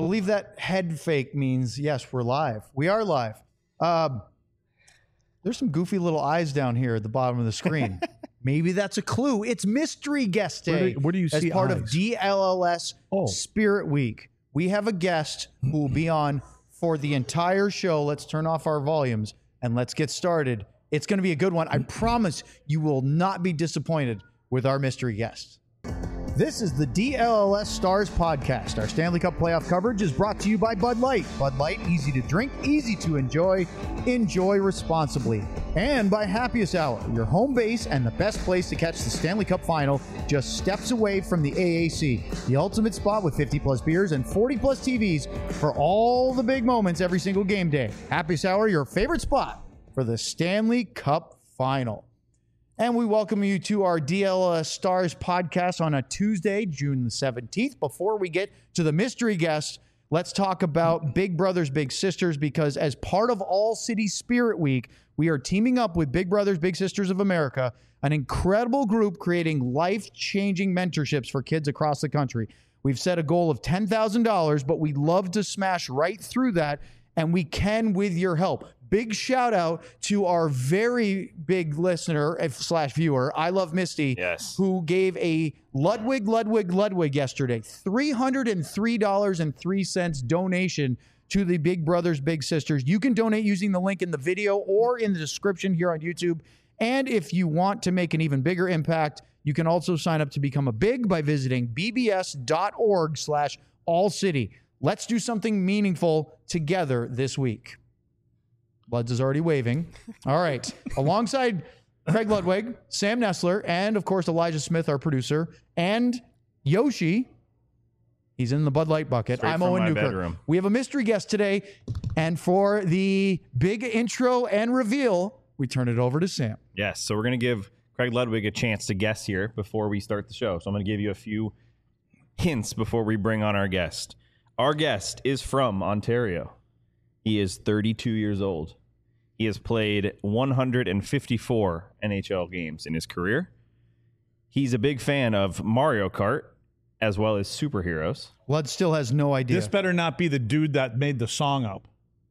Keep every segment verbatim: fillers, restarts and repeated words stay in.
believe that head fake means, yes, we're live. We are live. Um, there's some goofy little eyes down here at the bottom of the screen. Maybe that's a clue. It's Mystery Guest Day. Where do, where do you as see part eyes? of D L L S Oh. Spirit Week. We have a guest who will be on for the entire show. Let's turn off our volumes and let's get started. It's going to be a good one. I promise you will not be disappointed with our mystery guest. This is the D L L S Stars Podcast. Our Stanley Cup playoff coverage is brought to you by Bud Light. Bud Light, easy to drink, easy to enjoy. Enjoy responsibly. And by Happiest Hour, your home base and the best place to catch the Stanley Cup Final, just steps away from the A A C. The ultimate spot with fifty plus beers and forty plus T Vs for all the big moments every single game day. Happiest Hour, your favorite spot for the Stanley Cup Final. And we welcome you to our D L L S Stars podcast on a Tuesday, June the seventeenth. Before we get to the mystery guest, let's talk about Big Brothers Big Sisters, because as part of All City Spirit Week, we are teaming up with Big Brothers Big Sisters of America, an incredible group creating life-changing mentorships for kids across the country. We've set a goal of ten thousand dollars, but we'd love to smash right through that, and we can with your help. Big shout out to our very big listener slash viewer, I Love Misty, yes, who gave a Ludwig, Ludwig, Ludwig yesterday, three hundred three dollars and three cents donation to the Big Brothers Big Sisters. You can donate using the link in the video or in the description here on YouTube. And if you want to make an even bigger impact, you can also sign up to become a Big by visiting b b s dot org slash all city. Let's do something meaningful together this week. Bloods is already waving. All right. Alongside Craig Ludwig, Sam Nestler, and, of course, Elijah Smith, our producer, and Yoshi. He's in the Bud Light bucket. Straight I'm from Owen my Newkirk. bedroom. We have a mystery guest today. And for the big intro and reveal, we turn it over to Sam. Yes, so we're going to give Craig Ludwig a chance to guess here before we start the show. So I'm going to give you a few hints before we bring on our guest. Our guest is from Ontario. He is thirty-two years old. He has played one hundred fifty-four N H L games in his career. He's a big fan of Mario Kart as well as superheroes. Blood still has no idea. This better not be the dude that made the song up.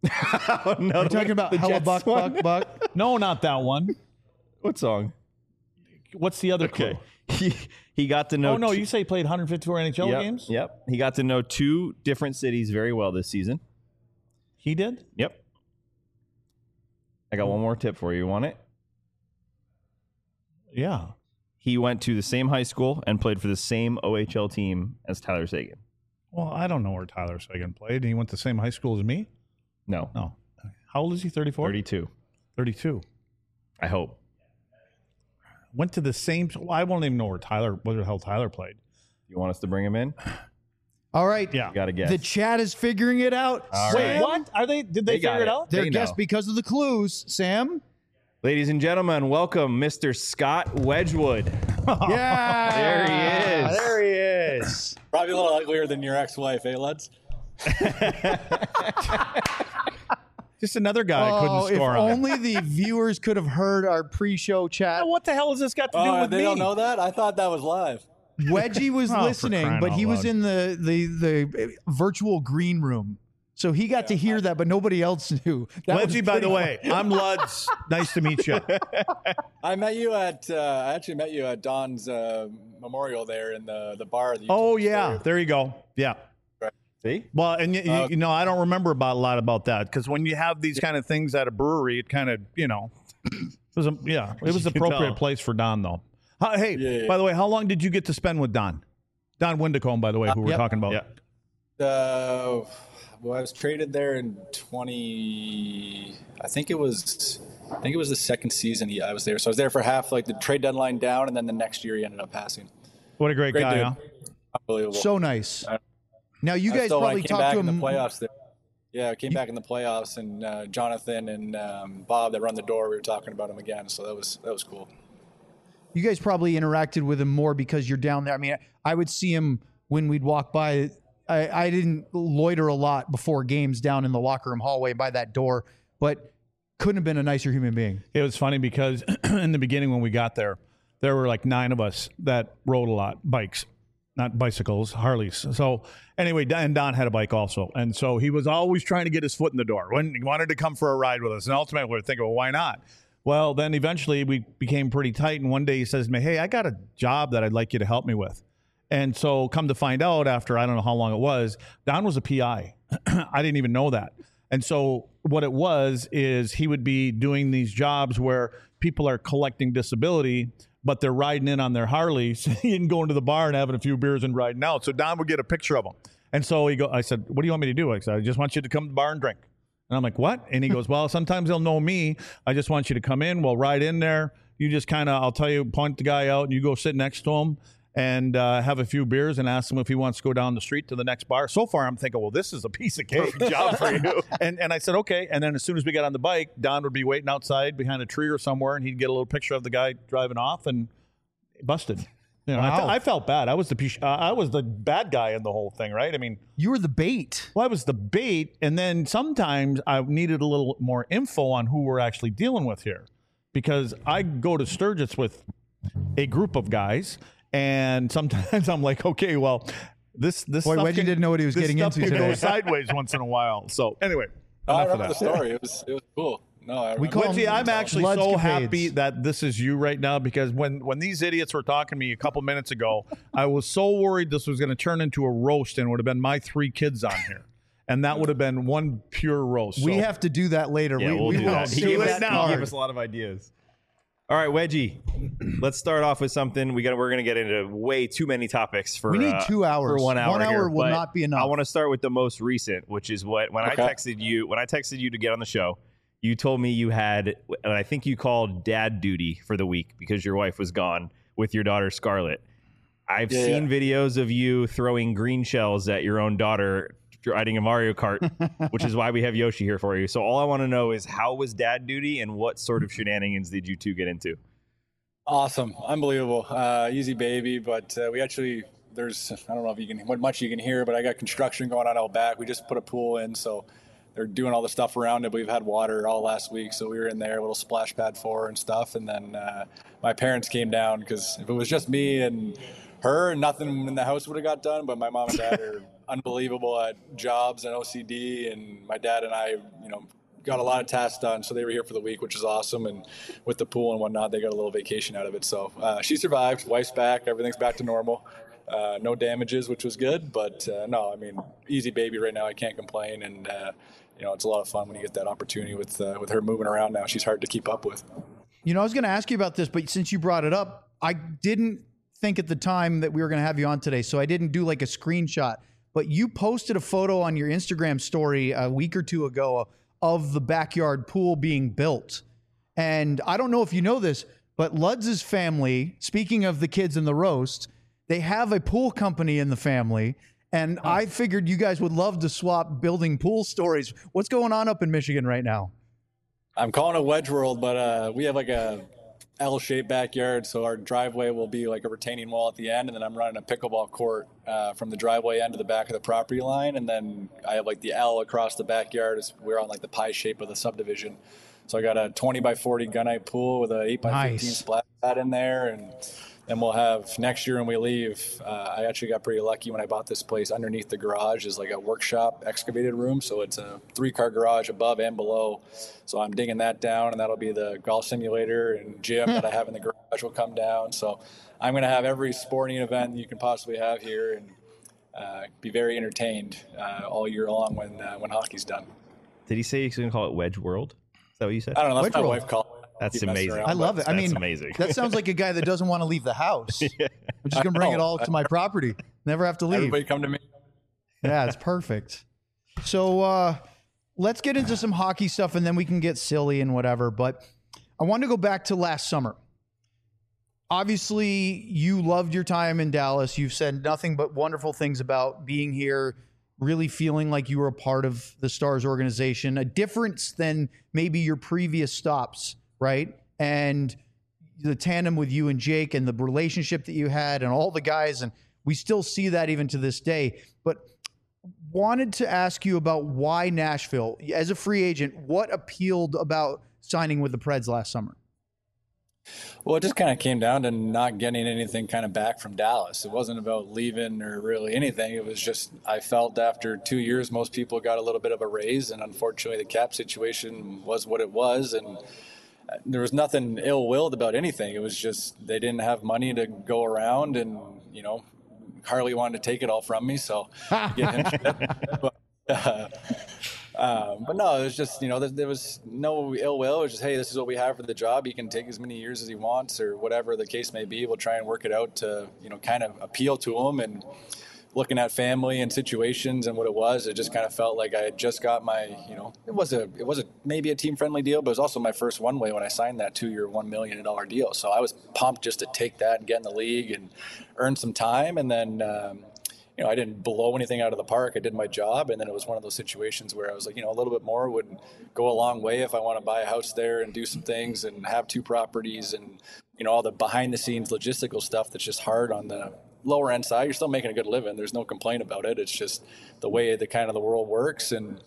Oh, no, You're talking about the Hella Jets Buck, one? Buck, Buck? No, not that one. What song? What's the other clue? He he got to know. Oh, no, two- you say he played one hundred fifty-four N H L yep, games? Yep. He got to know two different cities very well this season. He did? Yep. I got one more tip for you. You want it? Yeah. He went to the same high school and played for the same O H L team as Tyler Seguin. Well, I don't know where Tyler Seguin played. He went to the same high school as me? No. No. How old is he? thirty-four? thirty-two. thirty-two. I hope. Went to the same. Well, I won't even know where Tyler, where the hell Tyler played. You want us to bring him in? All right. Yeah. You got to guess. The chat is figuring it out. All Sam, right. What? Are they? Did they, They got figure it it. out? They're They guessed know. because of the clues. Sam? Ladies and gentlemen, welcome Mister Scott Wedgwood. Yeah. There he is. There he is. Probably a little uglier than your ex-wife, eh, lads? Just another guy I Oh, couldn't if score on. only the viewers could have heard our pre-show chat. What the hell has this got to do Oh, with they me? don't know that? I thought that was live. Wedgie was Oh, for listening, crying but out he was loud. in the, the, the virtual green room. So he got to hear that, but nobody else knew. That was Wedgie, by the pretty way, I'm Luds. Nice to meet you. I met you at, uh, I actually met you at Don's uh, memorial there in the, the bar. That you Oh, told the yeah. story. There you go. Yeah. See? Well, and you, Uh, you know, I don't remember about a lot about that because when you have these kind of things at a brewery, it kind of, you know, it was a, yeah, it was You can appropriate tell. place for Don, though. How, hey, Yeah, yeah. by the way, how long did you get to spend with Don? Don Windicombe, by the way, who we're yep. talking about. Yeah. Uh, well, I was traded there in twenty. I think it was. I think it was the second season he, I was there. So I was there for half, like the trade deadline down, and then the next year he ended up passing. What a great, Great guy, dude. huh? Unbelievable. So nice. Now, you I guys still, when I probably came talked back to in the him. playoffs. There. Yeah, I came back in the playoffs, and uh, Jonathan and um, Bob that run the door. We were talking about him again, so that was that was cool. You guys probably interacted with him more because you're down there. I mean, I would see him when we'd walk by. I, I didn't loiter a lot before games down in the locker room hallway by that door, but couldn't have been a nicer human being. It was funny because in the beginning when we got there, there were like nine of us that rode a lot, bikes. not bicycles, Harleys. So anyway, and Don had a bike also. And so he was always trying to get his foot in the door when he wanted to come for a ride with us. And ultimately we were thinking, well, why not? Well, then eventually we became pretty tight. And one day he says to me, hey, I got a job that I'd like you to help me with. And so come to find out after, I don't know how long it was, Don was a P I. I didn't even know that. And so what it was is he would be doing these jobs where people are collecting disability, but they're riding in on their Harleys and going to the bar and having a few beers and riding out. So Don would get a picture of them. And so he go, I said, what do you want me to do? I said, I just want you to come to the bar and drink. And I'm like, what? And he goes, well, sometimes they'll know me. I just want you to come in. We'll ride in there. You just kind of, I'll tell you, point the guy out and you go sit next to him and uh, have a few beers and ask him if he wants to go down the street to the next bar. So far, I'm thinking, well, this is a piece of cake job for you. And and I said, okay. And then as soon as we got on the bike, Don would be waiting outside behind a tree or somewhere, and he'd get a little picture of the guy driving off and busted. You know, Wow. I, th- I felt bad. I was the piece- uh, I was the bad guy in the whole thing, right? I mean, You were the bait. well, I was the bait, and then sometimes I needed a little more info on who we're actually dealing with here, because I go to Sturgis with a group of guys. And sometimes I'm like, okay, well, this this Boy, stuff Wedgie can- didn't know what he was this getting stuff into can today. go sideways once in a while. So anyway, Oh, I enough of remember the that. story. It was it was cool. No, I We remember. call Wedgie, them I'm actually so Bloodscapades. happy that this is you right now, because when when these idiots were talking to me a couple minutes ago, I was so worried this was going to turn into a roast and it would have been my three kids on here. And that would have been one pure roast. We So- have to do that later. Yeah, we we'll we do will that. He do gave, it us, now. he gave us a lot of ideas. All right, Wedgie, let's start off with something. We got. We're going to get into way too many topics for. We need uh, two hours. for one hour. One hour here, will but not be enough. I want to start with the most recent, which is what when Okay. I texted you. When I texted you to get on the show, you told me you had, and I think you called dad duty for the week because your wife was gone with your daughter Scarlett. I've Yeah, seen yeah. videos of you throwing green shells at your own daughter riding a Mario Kart, which is why we have Yoshi here for you. So all I want to know is, how was dad duty and what sort of shenanigans did you two get into? Awesome, unbelievable, uh, easy baby. But uh, we actually, there's, I don't know if you can, what much you can hear, but I got construction going on out back. We just put a pool in, so they're doing all the stuff around it. We've had water all last week, so we were in there, a little splash pad for her and stuff. And then uh, my parents came down, because if it was just me and her, nothing in the house would have got done. But my mom and dad are unbelievable at jobs and O C D, and my dad and I, you know, got a lot of tasks done, so they were here for the week, which is awesome. And with the pool and whatnot, they got a little vacation out of it. So uh, she survived. Wife's back. Everything's back to normal. Uh, no damages, which was good. But uh, no, I mean, easy baby right now. I can't complain. And uh, you know, it's a lot of fun when you get that opportunity with uh, with her moving around now. She's hard to keep up with. You know, I was going to ask you about this, but since you brought it up, I didn't think at the time that we were going to have you on today, so I didn't do like a screenshot. But you posted a photo on your Instagram story a week or two ago of the backyard pool being built. And I don't know if you know this, but Ludz's family, speaking of the kids in the roast, they have a pool company in the family. And I figured you guys would love to swap building pool stories. What's going on up in Michigan right now? I'm calling it Wedge World, but uh, we have like a L-shaped backyard, so our driveway will be like a retaining wall at the end, and then I'm running a pickleball court uh, from the driveway end to the back of the property line, and then I have like the L across the backyard. As we're on like the pie shape of the subdivision, so I got a twenty by forty gunite pool with a eight by fifteen Nice. splash pad in there, and then we'll have next year when we leave. Uh, I actually got pretty lucky when I bought this place. Underneath the garage is like a workshop excavated room, so it's a three-car garage above and below. So I'm digging that down, and that'll be the golf simulator and gym that I have in the garage will come down. So I'm going to have every sporting event you can possibly have here, and uh, be very entertained uh, all year long when uh, when hockey's done. Did he say he's going to call it Wedge World? Is that what you said? I don't know. That's Wedge my World. wife called it. That's Keep messing amazing. around, I but- love it. I That's mean, amazing. that sounds like a guy that doesn't want to leave the house. I'm just I going to bring it know. all to my property. Never have to leave. Everybody come to me. Yeah, it's perfect. So uh, let's get into some hockey stuff, and then we can get silly and whatever. But I want to go back to last summer. Obviously, you loved your time in Dallas. You've said nothing but wonderful things about being here, really feeling like you were a part of the Stars organization, a difference than maybe your previous stops, right? And the tandem with you and Jake and the relationship that you had and all the guys, and we still see that even to this day. But wanted to ask you about why Nashville. As a free agent, what appealed about signing with the Preds last summer? Well, it just kind of came down to not getting anything kind of back from Dallas. It wasn't about leaving or really anything. It was just, I felt after two years, most people got a little bit of a raise. And unfortunately, the cap situation was what it was. And there was nothing ill-willed about anything. It was just they didn't have money to go around. And, you know, Harley wanted to take it all from me. So give him shit. But, uh, Um, but no, it was just, you know, there, there was no ill will. It was just, hey, this is what we have for the job. He can take as many years as he wants or whatever the case may be. We'll try and work it out to, you know, kind of appeal to him. And looking at family and situations and what it was, it just kind of felt like I had just got my, you know, it was a, it was a, maybe a team friendly deal, but it was also my first one way when I signed that two year, one million dollars deal. So I was pumped just to take that and get in the league and earn some time. And then, um, you know, I didn't blow anything out of the park. I did my job. And then it was one of those situations where I was like, you know, a little bit more would go a long way if I want to buy a house there and do some things and have two properties and, you know, all the behind the scenes logistical stuff that's just hard on the lower end side. You're still making a good living. There's no complaint about it. It's just the way the kind of the world works. And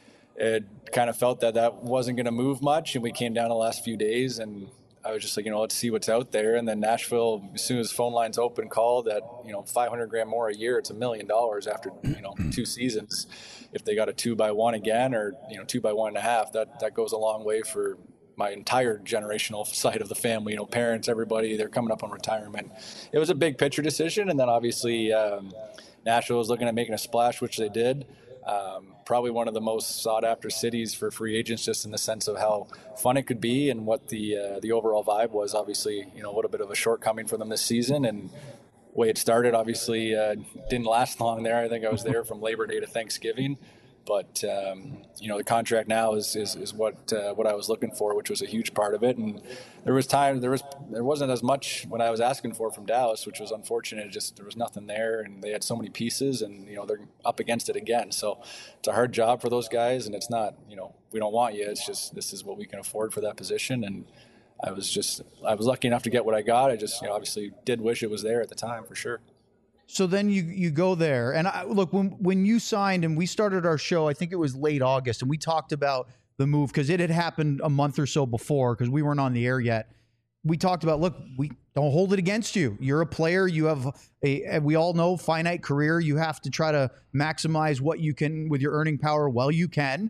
it kind of felt that that wasn't going to move much. And we came down the last few days and I was just like, you know, let's see what's out there. And then Nashville, as soon as phone lines open, called at, you know, five hundred grand more a year. It's a million dollars after, you know, two seasons. If they got a two by one again or, you know, two by one and a half, that, that goes a long way for my entire generational side of the family, you know, parents, everybody, they're coming up on retirement. It was a big picture decision. And then obviously um, Nashville was looking at making a splash, which they did. Um, probably one of the most sought after cities for free agents, just in the sense of how fun it could be and what the uh, the overall vibe was. Obviously, you know, a little bit of a shortcoming for them this season, and the way it started, obviously, uh, didn't last long there. I think I was there from Labor Day to Thanksgiving. But, um, you know, the contract now is is, is what uh, what I was looking for, which was a huge part of it. And there was time, there was there wasn't as much when I was asking for from Dallas, which was unfortunate. It just there was nothing there, and they had so many pieces, and, you know, they're up against it again. So it's a hard job for those guys, and it's not, you know, we don't want you. It's just this is what we can afford for that position. And I was just I was lucky enough to get what I got. I just, you know, obviously did wish it was there at the time for sure. So then you you go there, and I, look, when when you signed and we started our show, I think it was late August, and we talked about the move because it had happened a month or so before because we weren't on the air yet. We talked about, look, we don't hold it against you. You're a player. You have a, we all know, finite career. You have to try to maximize what you can with your earning power while you can.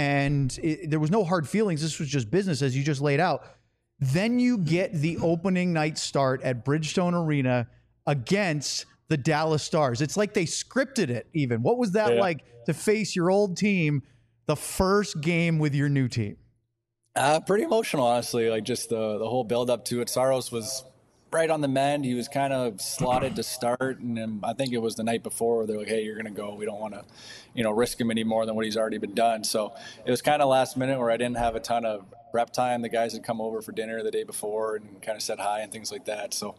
And it, there was no hard feelings. This was just business, as you just laid out. Then you get the opening night start at Bridgestone Arena against the Dallas Stars. It's like they scripted it even. What was that yeah. like to face your old team the first game with your new team? Uh, pretty emotional, honestly. Like just the the whole build up to it. Saros was right on the mend. He was kind of slotted to start, and then I think it was the night before where they're like, "Hey, you're going to go. We don't want to, you know, risk him any more than what he's already been done." So it was kind of last minute where I didn't have a ton of prep time. The guys had come over for dinner the day before and kind of said hi and things like that. So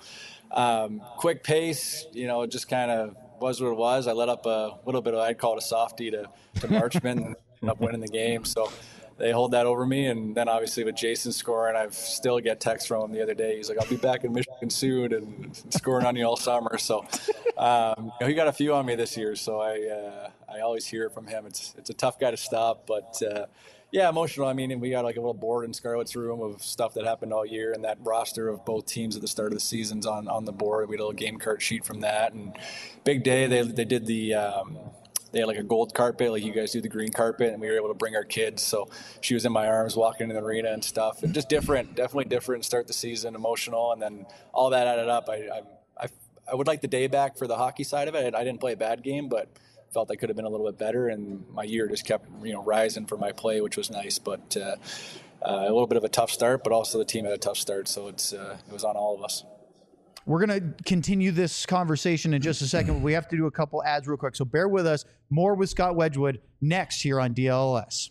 um, quick pace, you know, it just kind of was what it was. I let up a little bit of, I'd call it a softie to to Marchman and ended up winning the game. So they hold that over me. And then obviously with Jason scoring, I've still get texts from him the other day. He's like, I'll be back in Michigan soon and scoring on you all summer. So um, you know, he got a few on me this year. So I uh, I always hear it from him. It's it's a tough guy to stop, but uh, yeah, emotional. I mean, we got like a little board in Scarlett's room of stuff that happened all year, and that roster of both teams at the start of the season's on, on the board. We had a little game card sheet from that, and big day. They they did the um, they had like a gold carpet, like you guys do the green carpet, and we were able to bring our kids. So she was in my arms walking in the arena and stuff, and just different, definitely different. Start the season emotional, and then all that added up. I I I, I would like the day back for the hockey side of it. I didn't play a bad game, but felt I could have been a little bit better, and my year just kept, you know, rising for my play, which was nice. But uh, uh, a little bit of a tough start, but also the team had a tough start, so it's uh, it was on all of us. We're going to continue this conversation in just a second, but we have to do a couple ads real quick. So bear with us. More with Scott Wedgwood next here on D L S.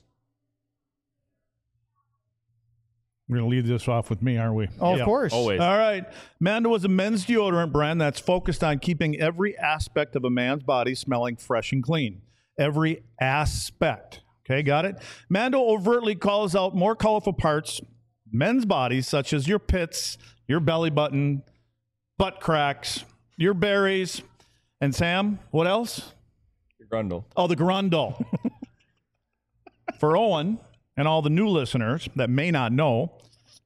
We're going to lead this off with me, aren't we? Oh, yeah. Of course. Always. All right. Mando is a men's deodorant brand that's focused on keeping every aspect of a man's body smelling fresh and clean. Every aspect. Okay, got it? Mando overtly calls out more colorful parts, men's bodies, such as your pits, your belly button, butt cracks, your berries, and Sam, what else? Your grundle. Oh, the grundle. For Owen and all the new listeners that may not know,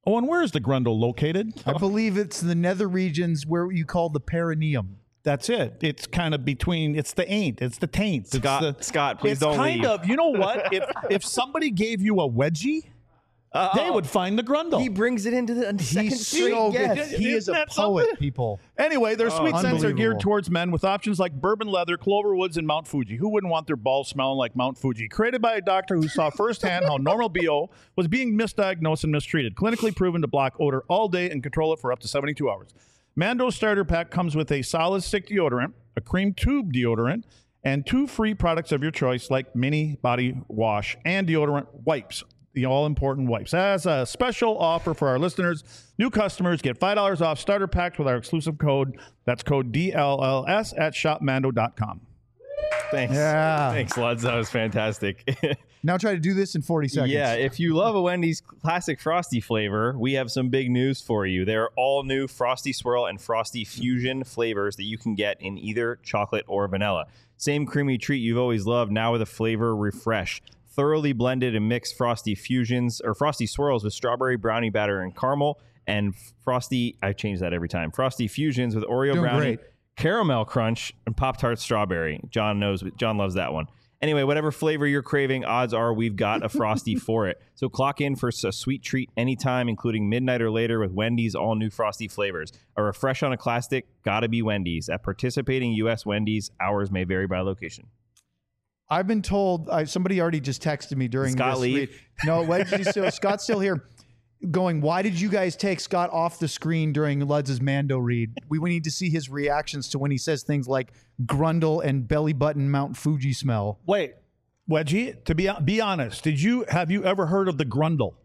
Oh, and where is the Grundle located? I believe it's the nether regions where you call the perineum. That's it. It's kind of between. It's the ain't. It's the taint. It's Scott, the, Scott, please it's don't kind leave. of. You know what? If if somebody gave you a wedgie, Uh, they would find the Grundle. He brings it into the second He's street. so good. Yes. He is Isn't a that poet, something? people. Anyway, their sweet scents are unbelievable. geared towards men with options like bourbon leather, clover woods, and Mount Fuji. Who wouldn't want their balls smelling like Mount Fuji? Created by a doctor who saw firsthand how normal B O was being misdiagnosed and mistreated. Clinically proven to block odor all day and control it for up to seventy-two hours. Mando's starter pack comes with a solid stick deodorant, a cream tube deodorant, and two free products of your choice like mini body wash and deodorant wipes. The all-important wipes. As a special offer for our listeners, new customers get five dollars off starter packs with our exclusive code. That's code D L L S at shop mando dot com. Thanks. Yeah. Thanks, Luds. That was fantastic. Now try to do this in forty seconds. Yeah, if you love a Wendy's classic Frosty flavor, we have some big news for you. There are all new Frosty Swirl and Frosty Fusion flavors that you can get in either chocolate or vanilla. Same creamy treat you've always loved, now with a flavor refresh. Thoroughly blended and mixed Frosty Fusions or Frosty Swirls with strawberry brownie batter and caramel, and Frosty, I change that every time, Frosty Fusions with Oreo Doing brownie, great. caramel crunch, and Pop-Tart strawberry. John knows, John loves that one. Anyway, whatever flavor you're craving, odds are we've got a Frosty for it. So clock in for a sweet treat anytime, including midnight or later with Wendy's all new Frosty flavors. A refresh on a classic, gotta be Wendy's. At participating U S Wendy's, hours may vary by location. I've been told, I, somebody already just texted me during Scott this. leave? read- No, Wedgie still, Scott's still here. Going, why did you guys take Scott off the screen during Luds' Mando read? We, we need to see his reactions to when he says things like Grundle and belly button Mount Fuji smell. Wait, Wedgie, to be be honest, did you have you ever heard of the Grundle?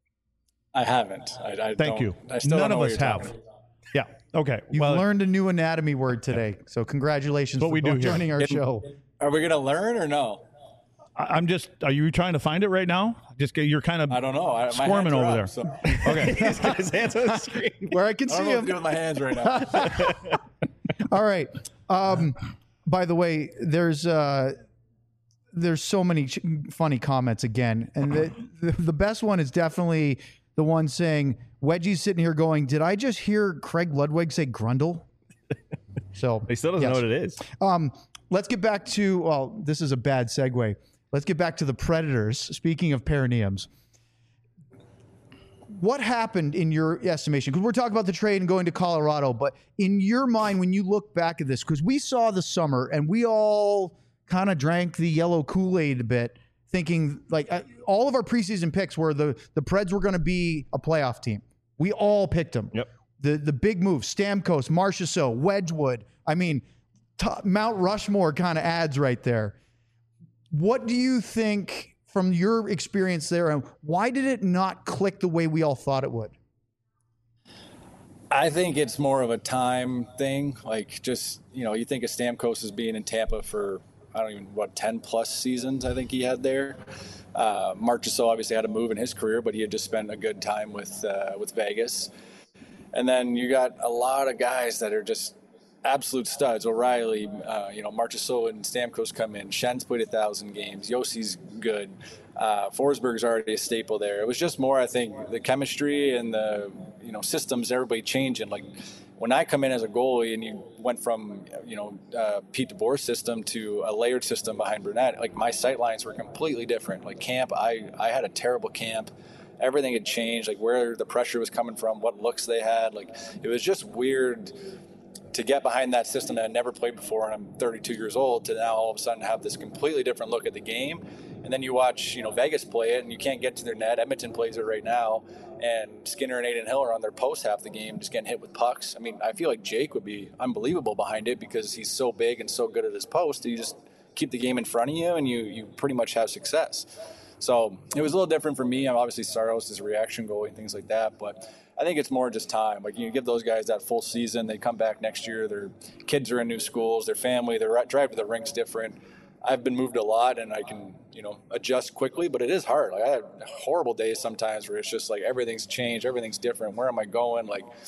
I haven't. I, I Thank don't- you. I still None don't know of what us you're have. talking about. Yeah. Okay. You've well, learned a new anatomy word today. So congratulations what for we do both here. joining our show. Are we gonna learn or no? I- I'm just. Are you trying to find it right now? Just get- you're kind of I don't know. I, my squirming hands are over up, there. So. Okay. He's got his hands on the screen. Where I can I don't see know what to do him. with my hands right now. All right. Um, by the way, there's uh, there's so many ch- funny comments again, and the, the the best one is definitely the one saying Wedgie's sitting here going, "Did I just hear Craig Ludwig say Grundle?" So He still doesn't yes. know what it is. Um, let's get back to, well, this is a bad segue. Let's get back to the Predators. Speaking of perineums, what happened in your estimation? Because we're talking about the trade and going to Colorado, but in your mind, when you look back at this, because we saw the summer and we all kind of drank the yellow Kool-Aid a bit, thinking like uh, all of our preseason picks were the, the Preds were going to be a playoff team. We all picked them. Yep. The the big moves, Stamkos, Marchessault, Wedgwood. I mean, t- Mount Rushmore kind of adds right there. What do you think from your experience there, and why did it not click the way we all thought it would? I think it's more of a time thing. Like, just, you know, you think of Stamkos as being in Tampa for, I don't even, what, ten plus seasons I think he had there. Uh, Marchessault obviously had a move in his career, but he had just spent a good time with uh, with Vegas. And then you got a lot of guys that are just absolute studs. O'Reilly, uh, you know, Marchessault and Stamkos come in. Schen's played a thousand games. Yossi's good. Uh, Forsberg's already a staple there. It was just more, I think, the chemistry and the, you know, systems, everybody changing. Like, when I come in as a goalie and you went from, you know, uh, Pete DeBoer's system to a layered system behind Brunette, like, my sight lines were completely different. Like, camp, I, I had a terrible camp. Everything had changed, like where the pressure was coming from, what looks they had. Like, it was just weird to get behind that system that I never played before, and I'm thirty-two years old, to now all of a sudden have this completely different look at the game. And then you watch, you know, Vegas play it, and you can't get to their net. Edmonton plays it right now, and Skinner and Aiden Hill are on their post half the game, just getting hit with pucks. I mean, I feel like Jake would be unbelievable behind it because he's so big and so good at his post. You just keep the game in front of you, and you you pretty much have success. So it was a little different for me. I'm obviously Saros is a reaction goalie and things like that, but I think it's more just time. Like, you give those guys that full season, they come back next year, their kids are in new schools, their family, their drive to the rink's different. I've been moved a lot and I can, you know, adjust quickly, but it is hard. Like, I had horrible days sometimes where it's just like everything's changed, everything's different. Where am I going? Like,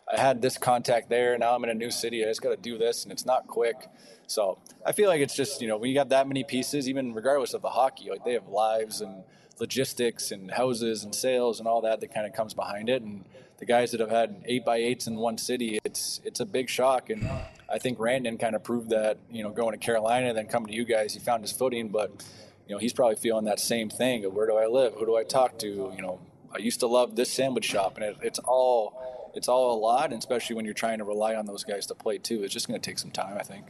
I had this contact there. Now I'm in a new city. I just got to do this, and it's not quick. So I feel like it's just, you know, when you have that many pieces, even regardless of the hockey, like they have lives and logistics and houses and sales and all that that kind of comes behind it. And the guys that have had eight by eights in one city, it's it's a big shock. And I think Randon kind of proved that, you know, going to Carolina and then coming to you guys, he found his footing. But, you know, he's probably feeling that same thing of where do I live? Who do I talk to? You know, I used to love this sandwich shop, and it, it's all it's all a lot, and especially when you're trying to rely on those guys to play too. It's just going to take some time, I think.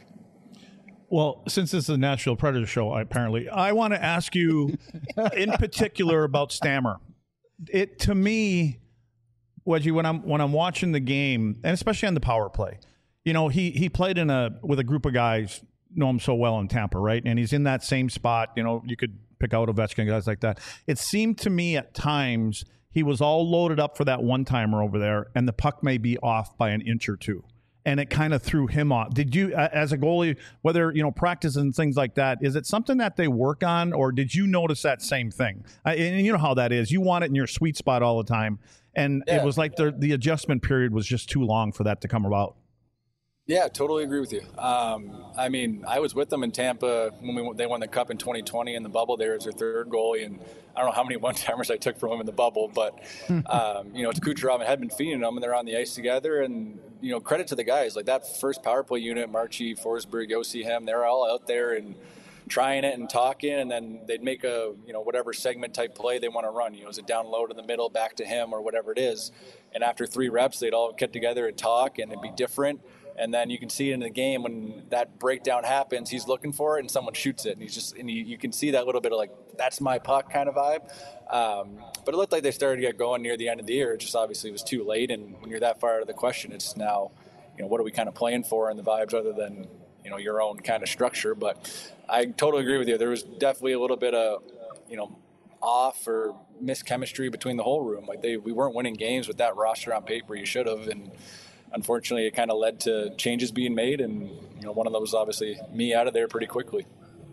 Well, since this is a Nashville Predator show, apparently, I want to ask you in particular about Stammer. It to me, Wedgie, when I'm when I'm watching the game, and especially on the power play, you know, he he played in a with a group of guys know him so well in Tampa, right? And he's in that same spot. You know, you could pick out Ovechkin, guys like that. It seemed to me at times he was all loaded up for that one timer over there, and the puck may be off by an inch or two. And it kind of threw him off. Did you, as a goalie, whether, you know, practice and things like that, is it something that they work on, or did you notice that same thing? I, and you know how that is. You want it in your sweet spot all the time. And yeah. It was like the, the adjustment period was just too long for that to come about. Yeah, totally agree with you. Um, I mean, I was with them in Tampa when we, they won the Cup in twenty twenty in the bubble there as their third goalie, and I don't know how many one-timers I took from him in the bubble, but, um, you know, it's Kucherov and had been feeding them, and they're on the ice together, and, you know, credit to the guys. Like that first power play unit, Marchie, Forsberg, Yossi, him, they're all out there and trying it and talking, and then they'd make a, you know, whatever segment type play they want to run. You know, is it down low to the middle, back to him, or whatever it is. And after three reps, they'd all get together and talk, and it'd be different. And then you can see it in the game when that breakdown happens, he's looking for it and someone shoots it. And he's just, and you, you can see that little bit of like, that's my puck kind of vibe. Um, but it looked like they started to get going near the end of the year. It just obviously was too late. And when you're that far out of the question, it's now, you know, what are we kind of playing for in the vibes other than, you know, your own kind of structure. But I totally agree with you. There was definitely a little bit of, you know, off or mischemistry between the whole room. Like they, we weren't winning games with that roster on paper. You should have. And unfortunately, it kind of led to changes being made, and you know, one of those obviously me out of there pretty quickly.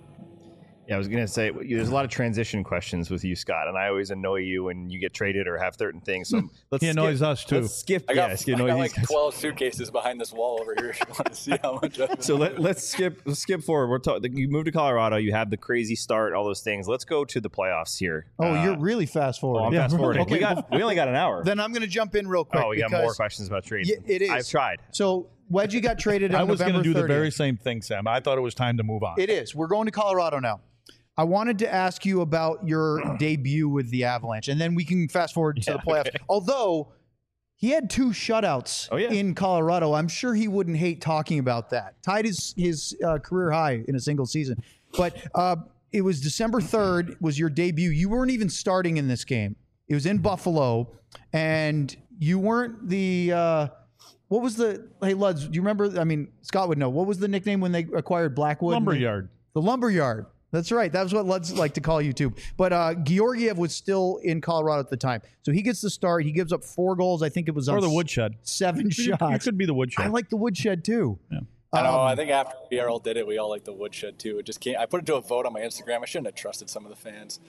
Yeah, I was going to say, there's a lot of transition questions with you, Scott, and I always annoy you when you get traded or have certain things. So let's he annoys skip, us too. Let's skip. I got, yeah, I got like twelve suitcases behind this wall over here. If you want to see how much. I've been so let, let's skip. Let's skip forward. We're talking. You moved to Colorado. You have the crazy start. All those things. Let's go to the playoffs here. Oh, uh, you're really fast forward. Oh, I'm yeah. fast forwarding. Okay, we got. We only got an hour. Then I'm going to jump in real quick. Oh, we got more questions about trades. Yeah, it is. I've tried. So Wedgie got traded on I was going to do thirtieth. the very same thing, Sam. I thought it was time to move on. It is. We're going to Colorado now. I wanted to ask you about your debut with the Avalanche, and then we can fast forward to Yeah, the playoffs. okay. Although he had two shutouts Oh, yeah. in Colorado, I'm sure he wouldn't hate talking about that. Tied his his uh, career high in a single season. But uh, it was December third was your debut. You weren't even starting in this game. It was in Buffalo, and you weren't the. Uh, what was the? Hey, Luds, do you remember? I mean, Scott would know. What was the nickname when they acquired Blackwood? Lumberyard. The Lumberyard. That's right. That was what Luds like to call you too. But uh, Georgiev was still in Colorado at the time. So he gets the start. He gives up four goals. I think it was on Or the Woodshed. seven You, shots. you could be the Woodshed. I like the Woodshed too. Yeah. I know. Um, I think after we all did it, we all like the woodshed too. It just can't. I put it to a vote on my Instagram. I shouldn't have trusted some of the fans.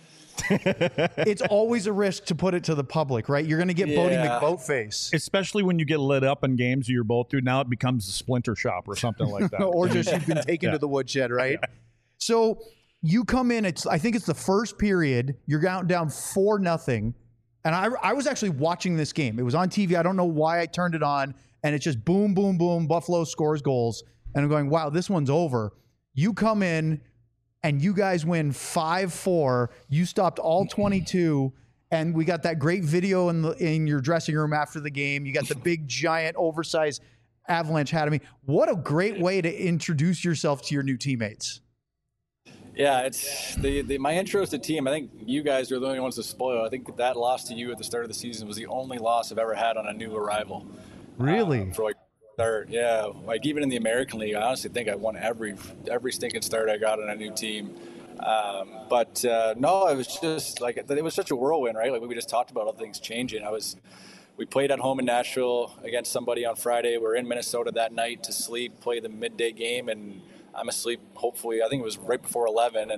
It's always a risk to put it to the public, right? You're going to get Bodie Yeah. McBoatface. Especially when you get lit up in games you're both do. Now it becomes a splinter shop or something like that. Or just you've been taken Yeah. to the woodshed, right? So you come in, it's I think it's the first period, you're down down four nothing. And I I was actually watching this game. It was on T V. I don't know why I turned it on, and it's just boom, boom, boom, Buffalo scores goals. And I'm going, wow, this one's over. You come in and you guys win five four. You stopped all twenty-two. And we got that great video in the in your dressing room after the game. You got the big, giant, oversized Avalanche hat of me. What a great way to introduce yourself to your new teammates. Yeah, it's the, the my intro to the team. I think you guys are the only ones to spoil. I think that loss to you at the start of the season was the only loss I've ever had on a new arrival. Really? Uh, for like start, yeah. Like even in the American League, I honestly think I won every every stinking start I got on a new team. Um, but uh, no, it was just like it was such a whirlwind, right? Like we just talked about all things changing. I was. We played at home in Nashville against somebody on Friday. We're in Minnesota that night to sleep, play the midday game, and I'm asleep. Hopefully, I think it was right before eleven, and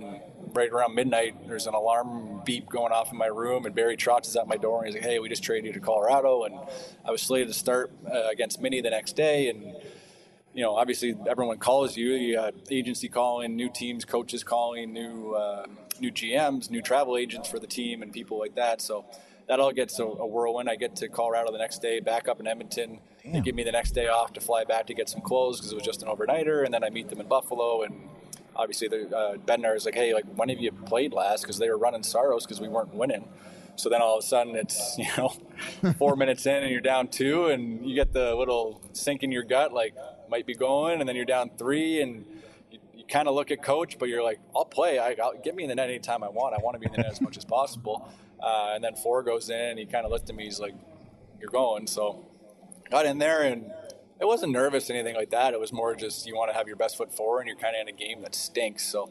right around midnight, there's an alarm beep going off in my room, and Barry Trotz is at my door, and he's like, "Hey, we just traded you to Colorado," and I was slated to start uh, against Mini the next day, and you know, obviously everyone calls you. You got agency calling, new teams, coaches calling, new uh, new G Ms, new travel agents for the team, and people like that. So that all gets a, a whirlwind. I get to Colorado the next day, back up in Edmonton. Damn. They give me the next day off to fly back to get some clothes because it was just an overnighter, and then I meet them in Buffalo. And obviously, the uh, Bednar is like, "Hey, like when have you played last?" Because they were running Saros because we weren't winning. So then all of a sudden it's, you know, four minutes in and you're down two, and you get the little sink in your gut, like might be going, and then you're down three, and you, you kind of look at coach, but you're like, I'll play. I, I'll get me in the net anytime I want. I want to be in the net as much as possible. Uh, and then four goes in, and he kind of looked at me. He's like, "You're going." So got in there, and it wasn't nervous or anything like that. It was more just you want to have your best foot forward, and you're kind of in a game that stinks. So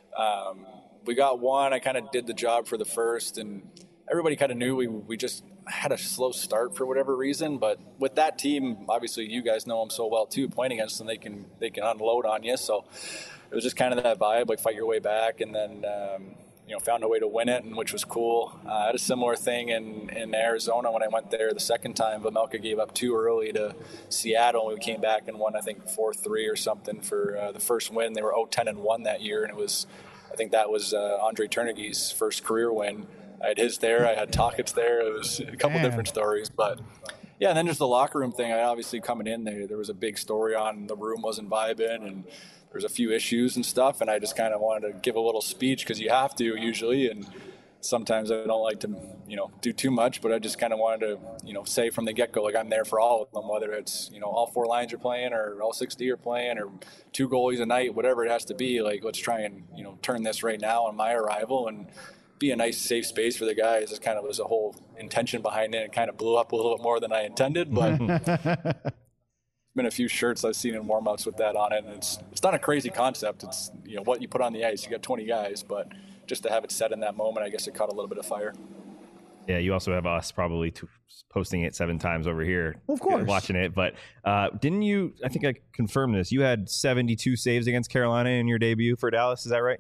um, we got one. I kind of did the job for the first, and everybody kind of knew we we just had a slow start for whatever reason. But with that team, obviously you guys know them so well too. Playing against them, they can they can unload on you. So it was just kind of that vibe, like fight your way back, and then um, you know found a way to win it, and which was cool. Uh, I had a similar thing in, in Arizona when I went there the second time. Vejmelka gave up too early to Seattle, and we came back and won I think four three or something for uh, the first win. They were oh ten and one that year, and it was I think that was uh, Andre Turnegie's first career win. I had his there. I had Tocchet's there. It was a couple Man. different stories, but yeah. And then just the locker room thing. I obviously coming in there, there was a big story on the room wasn't vibing, and there was a few issues and stuff. And I just kind of wanted to give a little speech because you have to usually, and sometimes I don't like to, you know, do too much. But I just kind of wanted to, you know, say from the get-go, like I'm there for all of them, whether it's you know all four lines are playing or all six D are playing or two goalies a night, whatever it has to be. Like let's try and you know turn this right now on my arrival and be a nice safe space for the guys. It kind of was a whole intention behind it. It kind of blew up a little bit more than I intended, but there's been a few shirts I've seen in warm-ups with that on it, and it's it's not a crazy concept. It's you know what you put on the ice. You got twenty guys, but just to have it set in that moment, I guess it caught a little bit of fire. Yeah, you also have us probably t- posting it seven times over here. Of course. Watching it. But uh, didn't you, I think I confirmed this, you had seventy-two saves against Carolina in your debut for Dallas. Is that right?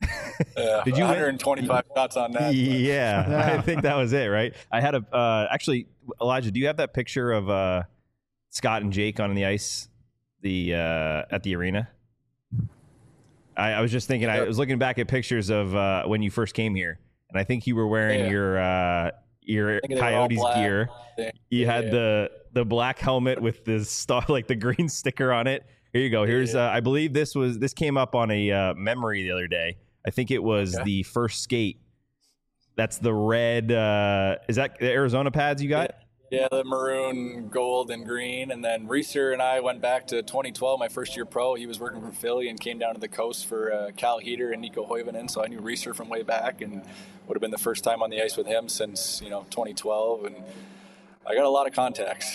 Uh, Did you one hundred twenty-five win? Shots on that? Yeah, yeah, I think that was it, right? I had a uh, actually, Elijah. Do you have that picture of uh, Scott and Jake on the ice, the uh, at the arena? I, I was just thinking. I was looking back at pictures of uh, when you first came here, and I think you were wearing yeah. your uh, your Coyotes gear. You yeah, had yeah. the the black helmet with the star, like the green sticker on it. Here you go. Here's yeah. uh, I believe this was this came up on a uh, memory the other day. I think it was okay. the first skate. That's the red. Uh, is that the Arizona pads you got? Yeah, the maroon, gold, and green. And then Reeser and I went back to twenty twelve, my first year pro. He was working for Philly and came down to the coast for uh, Cal Heater and Nico Hoivanen. So I knew Reeser from way back and would have been the first time on the ice with him since, you know, twenty twelve. And I got a lot of contacts.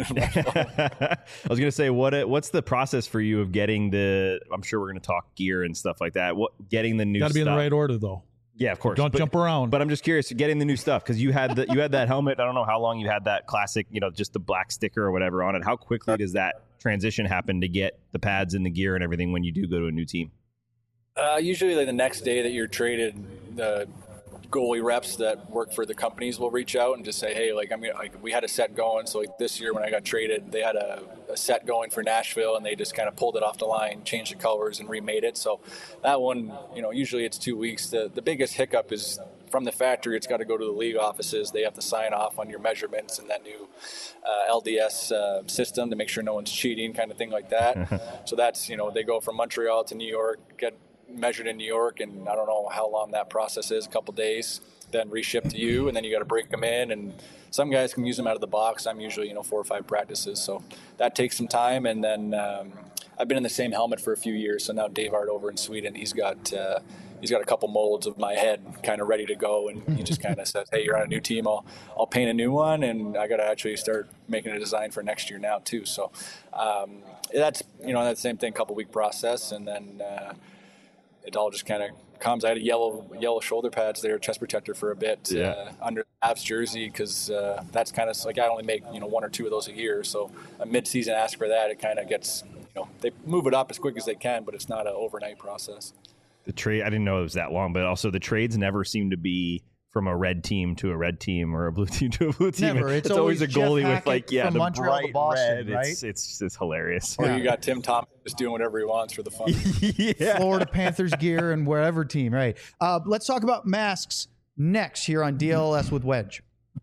I was going to say, what what's the process for you of getting the, I'm sure we're going to talk gear and stuff like that. What getting the new stuff. Got to be in the right order, though. Yeah, of course. Don't but, jump around. But I'm just curious, getting the new stuff, because you had the, you had that helmet. I don't know how long you had that classic, you know, just the black sticker or whatever on it. How quickly does that transition happen to get the pads and the gear and everything when you do go to a new team? Uh, usually like the next day that you're traded, the goalie reps that work for the companies will reach out and just say, hey, like, I mean, like we had a set going. So like this year when I got traded, they had a, a set going for Nashville and they just kind of pulled it off the line, changed the colors and remade it. So that one, you know, usually it's two weeks. The, the biggest hiccup is from the factory. It's got to go to the league offices. They have to sign off on your measurements and that new uh, L D S uh, system to make sure no one's cheating, kind of thing like that. So that's, you know, they go from Montreal to New York, get measured in New York, and I don't know how long that process is, a couple days, then reship to you, and then you got to break them in, and some guys can use them out of the box. I'm usually, you know, four or five practices, so that takes some time. And then um, I've been in the same helmet for a few years, so now Dave Art over in Sweden, he's got uh, he's got a couple molds of my head kind of ready to go, and he just kind of says, hey, you're on a new team, I'll I'll paint a new one, and I got to actually start making a design for next year now too. So um, that's, you know, that same thing, couple week process, and then uh, it all just kind of comes. I had a yellow yellow shoulder pads there, chest protector for a bit yeah. uh, under the Avs jersey, because uh, that's kind of like I only make, you know, one or two of those a year. So a mid-season ask for that, it kind of gets, you know, they move it up as quick as they can, but it's not an overnight process. the trade. I didn't know it was that long, but also the trades never seem to be from a red team to a red team or a blue team to a blue team. Never. It's always a Jeff goalie Hackett with like yeah, from the Montreal to bright Boston, red. right? It's it's it's hilarious. Or you got Tim Thomas just doing whatever he wants for the fun. yeah. Florida Panthers gear and wherever team, right? Uh, let's talk about masks next here on D L S with Wedge.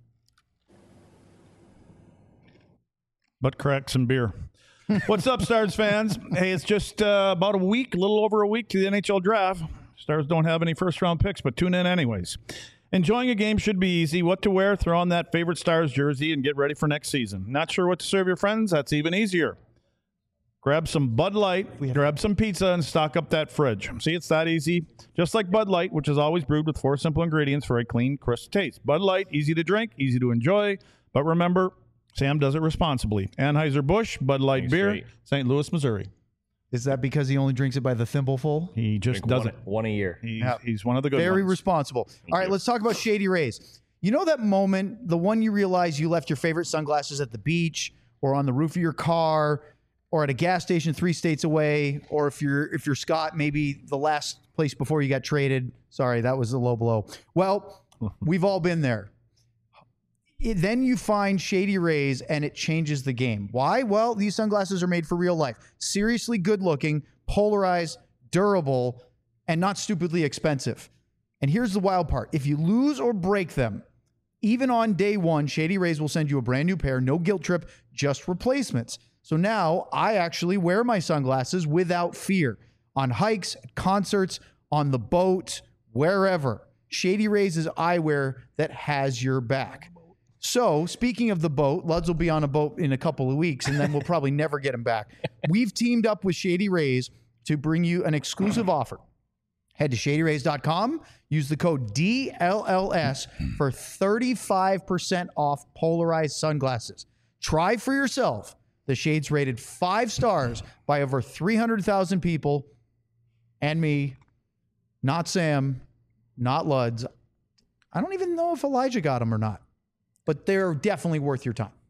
Butt cracks and beer. What's up, Stars fans? Hey, it's just uh, about a week, a little over a week to the N H L draft. Stars don't have any first-round picks, but tune in anyways. Enjoying a game should be easy. What to wear? Throw on that favorite Stars jersey and get ready for next season. Not sure what to serve your friends? That's even easier. Grab some Bud Light, grab some pizza, and stock up that fridge. See, it's that easy. Just like Bud Light, which is always brewed with four simple ingredients for a clean, crisp taste. Bud Light, easy to drink, easy to enjoy. But remember, Sam does it responsibly. Anheuser-Busch, Bud Light Thanks, beer, great. Saint Louis, Missouri. Is that because he only drinks it by the thimbleful? He just Drink does one, it. one a year. He's, Yeah. he's one of the good Very ones. responsible. All right, you. let's talk about Shady Rays. You know that moment, the one you realize you left your favorite sunglasses at the beach or on the roof of your car or at a gas station three states away, or if you're if you're Scott, maybe the last place before you got traded. Sorry, that was a low blow. Well, we've all been there. It- then you find Shady Rays and it changes the game. Why? Well, these sunglasses are made for real life. Seriously good looking, polarized, durable, and not stupidly expensive. And here's the wild part. If you lose or break them, even on day one, Shady Rays will send you a brand new pair, no guilt trip, just replacements. So now I actually wear my sunglasses without fear on hikes, at concerts, on the boat, wherever. Shady Rays is eyewear that has your back. So, speaking of the boat, Luds will be on a boat in a couple of weeks, and then we'll probably never get him back. We've teamed up with Shady Rays to bring you an exclusive offer. Head to shady rays dot com, use the code D L L S for thirty-five percent off polarized sunglasses. Try for yourself the shades rated five stars by over three hundred thousand people, and me, not Sam, not Luds. I don't even know if Elijah got them or not, but they're definitely worth your time.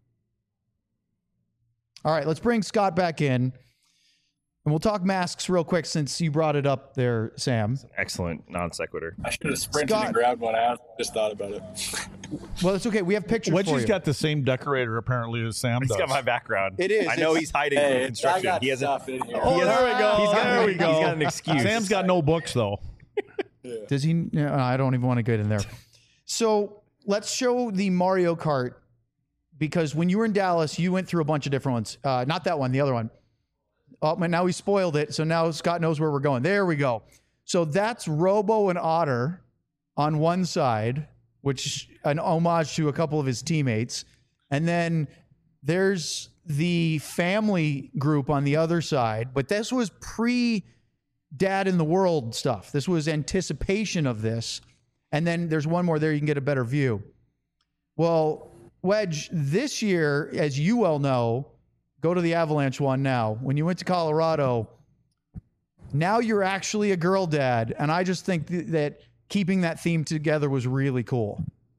All right, let's bring Scott back in. And we'll talk masks real quick since you brought it up there, Sam. Excellent non sequitur. I should have sprinted Scott- and grabbed one. I just thought about it. Well, it's okay. We have pictures for Wedgie's you. got the same decorator apparently as Sam He's does. got my background. It is. I know It's- he's hiding Hey, from I construction. got He hasn't. stuff in here. Oh, he has- there we go. He's got, There we go. He's got an excuse. Sam's got no books though. Does he? No, I don't even want to get in there. So let's show the Mario Kart, because when you were in Dallas, you went through a bunch of different ones. Uh, not that one, the other one. Oh, but now he spoiled it. So now Scott knows where we're going. There we go. So that's Robo and Otter on one side, which an homage to a couple of his teammates. And then there's the family group on the other side. But this was pre Dad in the World stuff. This was anticipation of this. And then there's one more there. You can get a better view. Well, Wedge, this year, as you well know, go to the Avalanche one now. When you went to Colorado, now you're actually a girl dad. And I just think th- that keeping that theme together was really cool.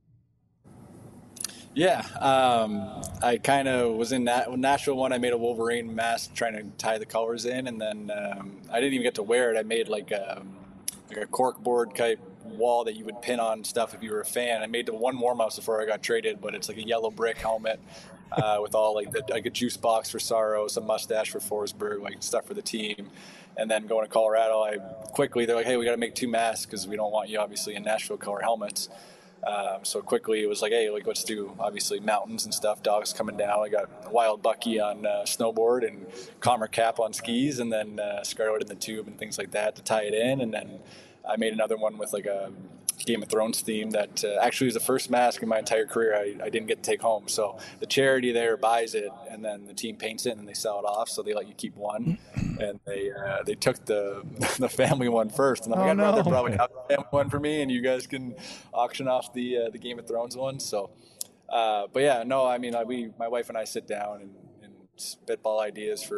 Yeah, um, I kind of was in that Nashville one. I made a Wolverine mask trying to tie the colors in, and then um, I didn't even get to wear it. I made like a, like a cork board type wall that you would pin on stuff if you were a fan. I made the one warm ups before I got traded, but it's like a yellow brick helmet uh, with all like the, like a juice box for Sorrow, some mustache for Forsberg, like stuff for the team. And then going to Colorado, I quickly they're like, hey, we got to make two masks because we don't want you obviously in Nashville color helmets. Um, so quickly it was like, hey, like let's do obviously mountains and stuff, dogs coming down. I got Wild Bucky on uh, snowboard and Commer Cap on skis, and then uh, Scarlet in the tube and things like that to tie it in. And then I made another one with like a Game of Thrones theme that uh, actually was the first mask in my entire career I, I didn't get to take home. So the charity there buys it, and then the team paints it, and then they sell it off. So they let you keep one, and they uh, they took the the family one first. And I'm like, Oh, I'd rather no. probably have the family one for me, and you guys can auction off the uh, the Game of Thrones one. So, uh, but yeah, no, I mean, I, we my wife and I sit down and, and spitball ideas for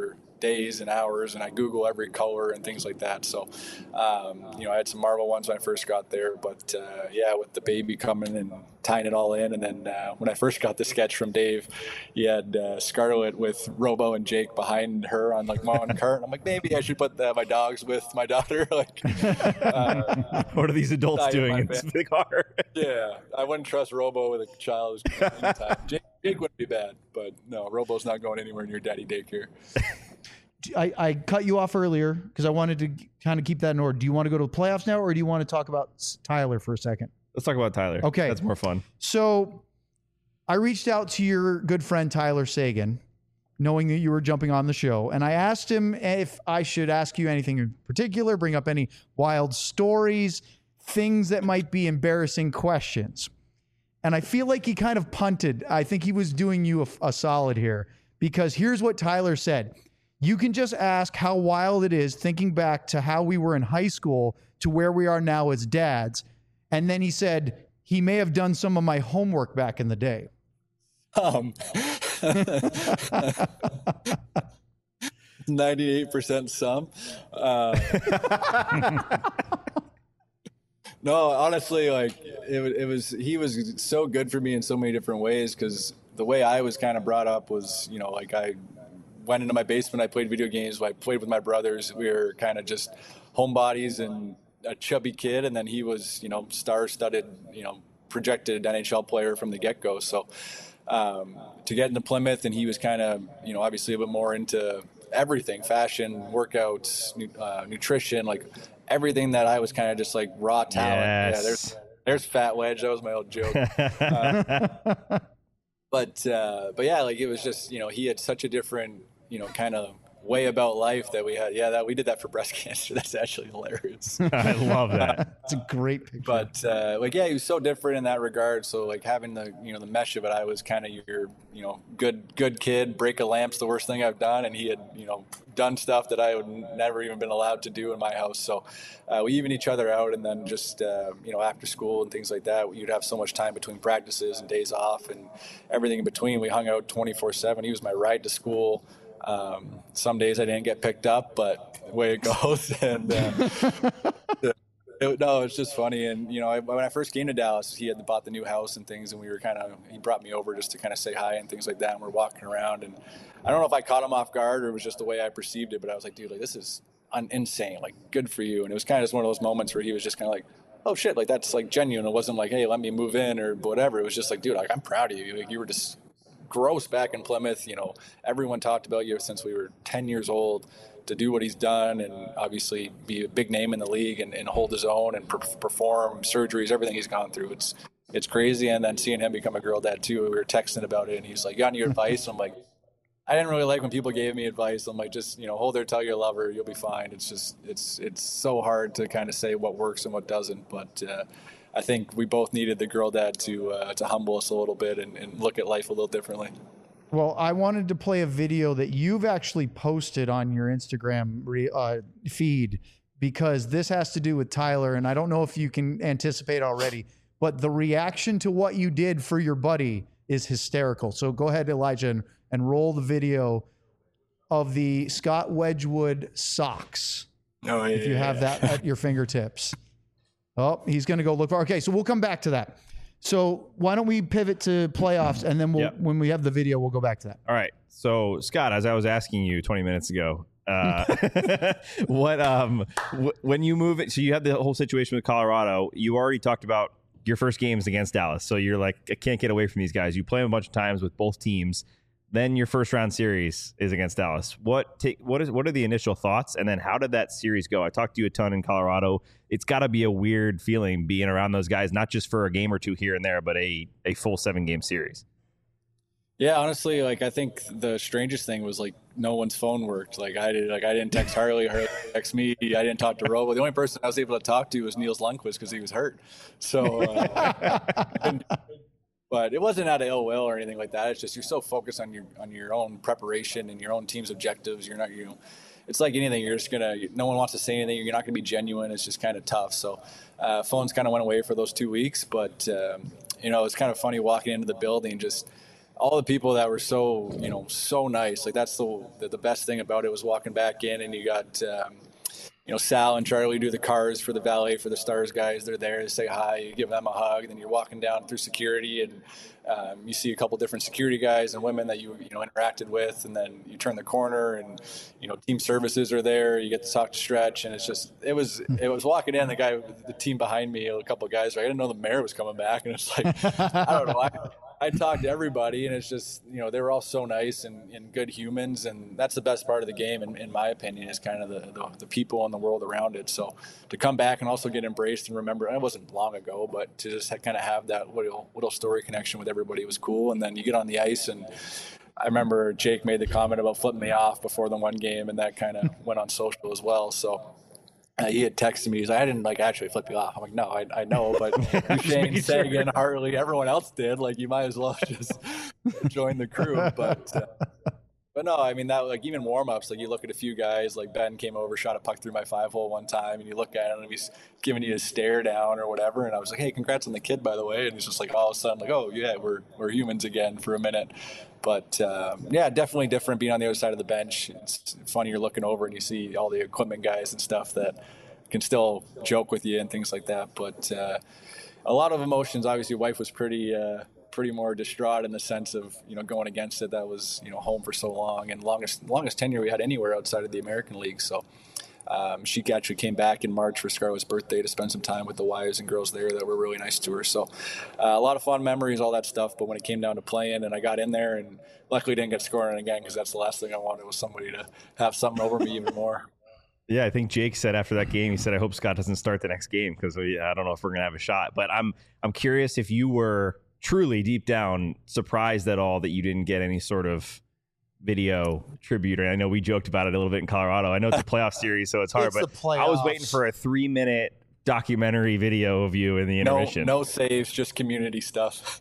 days and hours, and I Google every color and things like that. So, um, you know, I had some Marvel ones when I first got there, but uh, yeah, with the baby coming and tying it all in, and then uh, when I first got the sketch from Dave, he had uh, Scarlett with Robo and Jake behind her on like mom and cart. And I'm like, maybe I should put the, my dogs with my daughter. Like, uh, what are these adults doing in this big car? Yeah, I wouldn't trust Robo with a child. Anytime. Jake, Jake wouldn't be bad, but no, Robo's not going anywhere near daddy daycare. I, I cut you off earlier because I wanted to kind of keep that in order. Do you want to go to the playoffs now, or do you want to talk about Tyler for a second? Let's talk about Tyler. Okay. That's more fun. So I reached out to your good friend Tyler Seguin, knowing that you were jumping on the show, and I asked him if I should ask you anything in particular, bring up any wild stories, things that might be embarrassing questions. And I feel like he kind of punted. I think he was doing you a, a solid here, because here's what Tyler said. You can just ask how wild it is thinking back to how we were in high school to where we are now as dads. And then he said he may have done some of my homework back in the day. Um, ninety-eight percent some. Uh, no, honestly, like it, it was, he was so good for me in so many different ways, because the way I was kind of brought up was, you know, like I went into my basement, I played video games, I played with my brothers. We were kind of just homebodies and a chubby kid, and then he was, you know, star-studded, you know, projected N H L player from the get-go. So um, to get into Plymouth, and he was kind of, you know, obviously a bit more into everything, fashion, workouts, uh, nutrition, like everything that I was kind of just like raw talent. Yes. Yeah, there's there's Fat Wedge. That was my old joke. uh, but uh, but yeah, like it was just, you know, he had such a different, you know, kind of way about life that we had. Yeah, that we did that for breast cancer. That's actually hilarious. I love that. It's a great picture. But uh, like, yeah, he was so different in that regard. So like having the, you know, the mesh of it, I was kind of your, you know, good good kid. Break a lamp's the worst thing I've done, and he had, you know, done stuff that I would never even been allowed to do in my house. So uh, we even each other out, and then just uh, you know, after school and things like that, you'd have so much time between practices and days off and everything in between. We hung out twenty-four seven. He was my ride to school. Um, some days I didn't get picked up, but the way it goes. And uh, it, no, it's just funny. And, you know, I, when I first came to Dallas, he had bought the new house and things, and we were kind of, he brought me over just to kind of say hi and things like that. And we're walking around, and I don't know if I caught him off guard or it was just the way I perceived it, but I was like, dude, like, this is un- insane. Like, good for you. And it was kind of just one of those moments where he was just kind of like, oh shit, like that's like genuine. It wasn't like, hey, let me move in or whatever. It was just like, dude, like, I'm proud of you. Like, you were just gross back in Plymouth. You know, everyone talked about you since we were ten years old. To do what he's done and obviously be a big name in the league and, and hold his own and per- perform surgeries, everything he's gone through, it's it's crazy. And then seeing him become a girl dad too, we were texting about it, and he's like, "You got any advice?" I'm like, I didn't really like when people gave me advice. I'm like, just, you know, hold her, tell your lover, you'll be fine. It's just, it's it's so hard to kind of say what works and what doesn't. But uh, I think we both needed the girl dad to uh, to humble us a little bit and, and look at life a little differently. Well, I wanted to play a video that you've actually posted on your Instagram re, uh, feed, because this has to do with Tyler, and I don't know if you can anticipate already, but the reaction to what you did for your buddy is hysterical. So go ahead, Elijah, and, and roll the video of the Scott Wedgwood socks. Oh, yeah, if you have that at your fingertips. Oh, he's going to go look for. Okay, so we'll come back to that. So why don't we pivot to playoffs, and then we'll, Yep. when we have the video, we'll go back to that. All right. So, Scott, as I was asking you twenty minutes ago, uh, what um, w- when you move it, so you had the whole situation with Colorado. You already talked about your first games against Dallas. So you're like, I can't get away from these guys. You play them a bunch of times with both teams. Then your first round series is against Dallas. What take what is what are the initial thoughts, and then how did that series go? I talked to you a ton in Colorado. It's got to be a weird feeling being around those guys, not just for a game or two here and there, but a a full seven game series. Yeah, honestly, like I think the strangest thing was like no one's phone worked. Like I did, like I didn't text Harley, Harley text me. I didn't talk to Robo. The only person I was able to talk to was Niels Lundqvist because he was hurt. So. Uh, But it wasn't out of ill will or anything like that. It's just you're so focused on your on your own preparation and your own team's objectives. You're not, you know, it's like anything. You're just gonna. No one wants to say anything. You're not gonna be genuine. It's just kind of tough. So, uh, phones kind of went away for those two weeks. But um, you know, it's kind of funny walking into the building. Just all the people that were so, you know, so nice. Like that's the the, the best thing about it was walking back in, and you got, um, you know, Sal and Charlie do the cars for the valet for the Stars guys. They're there to say hi. You give them a hug, and then you're walking down through security, and um, you see a couple different security guys and women that you you know interacted with, and then you turn the corner, and you know, team services are there. You get to talk to Stretch, and it's just it was it was walking in. The guy, the team behind me, a couple of guys. I didn't know the mayor was coming back, and it's like I don't know. I, I talked to everybody, and it's just, you know, they were all so nice and, and good humans, and that's the best part of the game, in, in my opinion, is kind of the, the, the people and the world around it. So to come back and also get embraced and remember, it wasn't long ago, but to just kind of have that little, little story connection with everybody was cool. And then you get on the ice, and I remember Jake made the comment about flipping me off before the one game, and that kind of went on social as well. So Uh, he had texted me. He's like, I didn't like actually flip you off. I'm like, no, I, I know, but Shane, Sagan, Hartley, everyone else did. Like, you might as well just join the crew. But, uh, but no, I mean that like even warm ups. Like you look at a few guys. Like Ben came over, shot a puck through my five hole one time, and you look at him and he's giving you a stare down or whatever. And I was like, hey, congrats on the kid, by the way. And he's just like all of a sudden like, oh yeah, we're we're humans again for a minute. But um, yeah, definitely different being on the other side of the bench. It's funny, you're looking over and you see all the equipment guys and stuff that can still joke with you and things like that. But uh, a lot of emotions. Obviously, wife was pretty uh, pretty more distraught in the sense of, you know, going against it. That was, you know, home for so long and longest longest tenure we had anywhere outside of the American League. So um, she actually came back in March for Scarlett's birthday to spend some time with the wives and girls there that were really nice to her. So uh, a lot of fun memories, all that stuff. But when it came down to playing and I got in there, and luckily didn't get scoring again, because that's the last thing I wanted was somebody to have something over me even more. Yeah, I think Jake said after that game, he said, I hope Scott doesn't start the next game because I don't know if we're going to have a shot. But I'm I'm curious if you were truly deep down surprised at all that you didn't get any sort of video tribute. I know we joked about it a little bit in Colorado. I know it's a playoff series, so it's hard. It's but the playoffs. I was waiting for a three-minute documentary video of you in the intermission. No, no saves, just community stuff.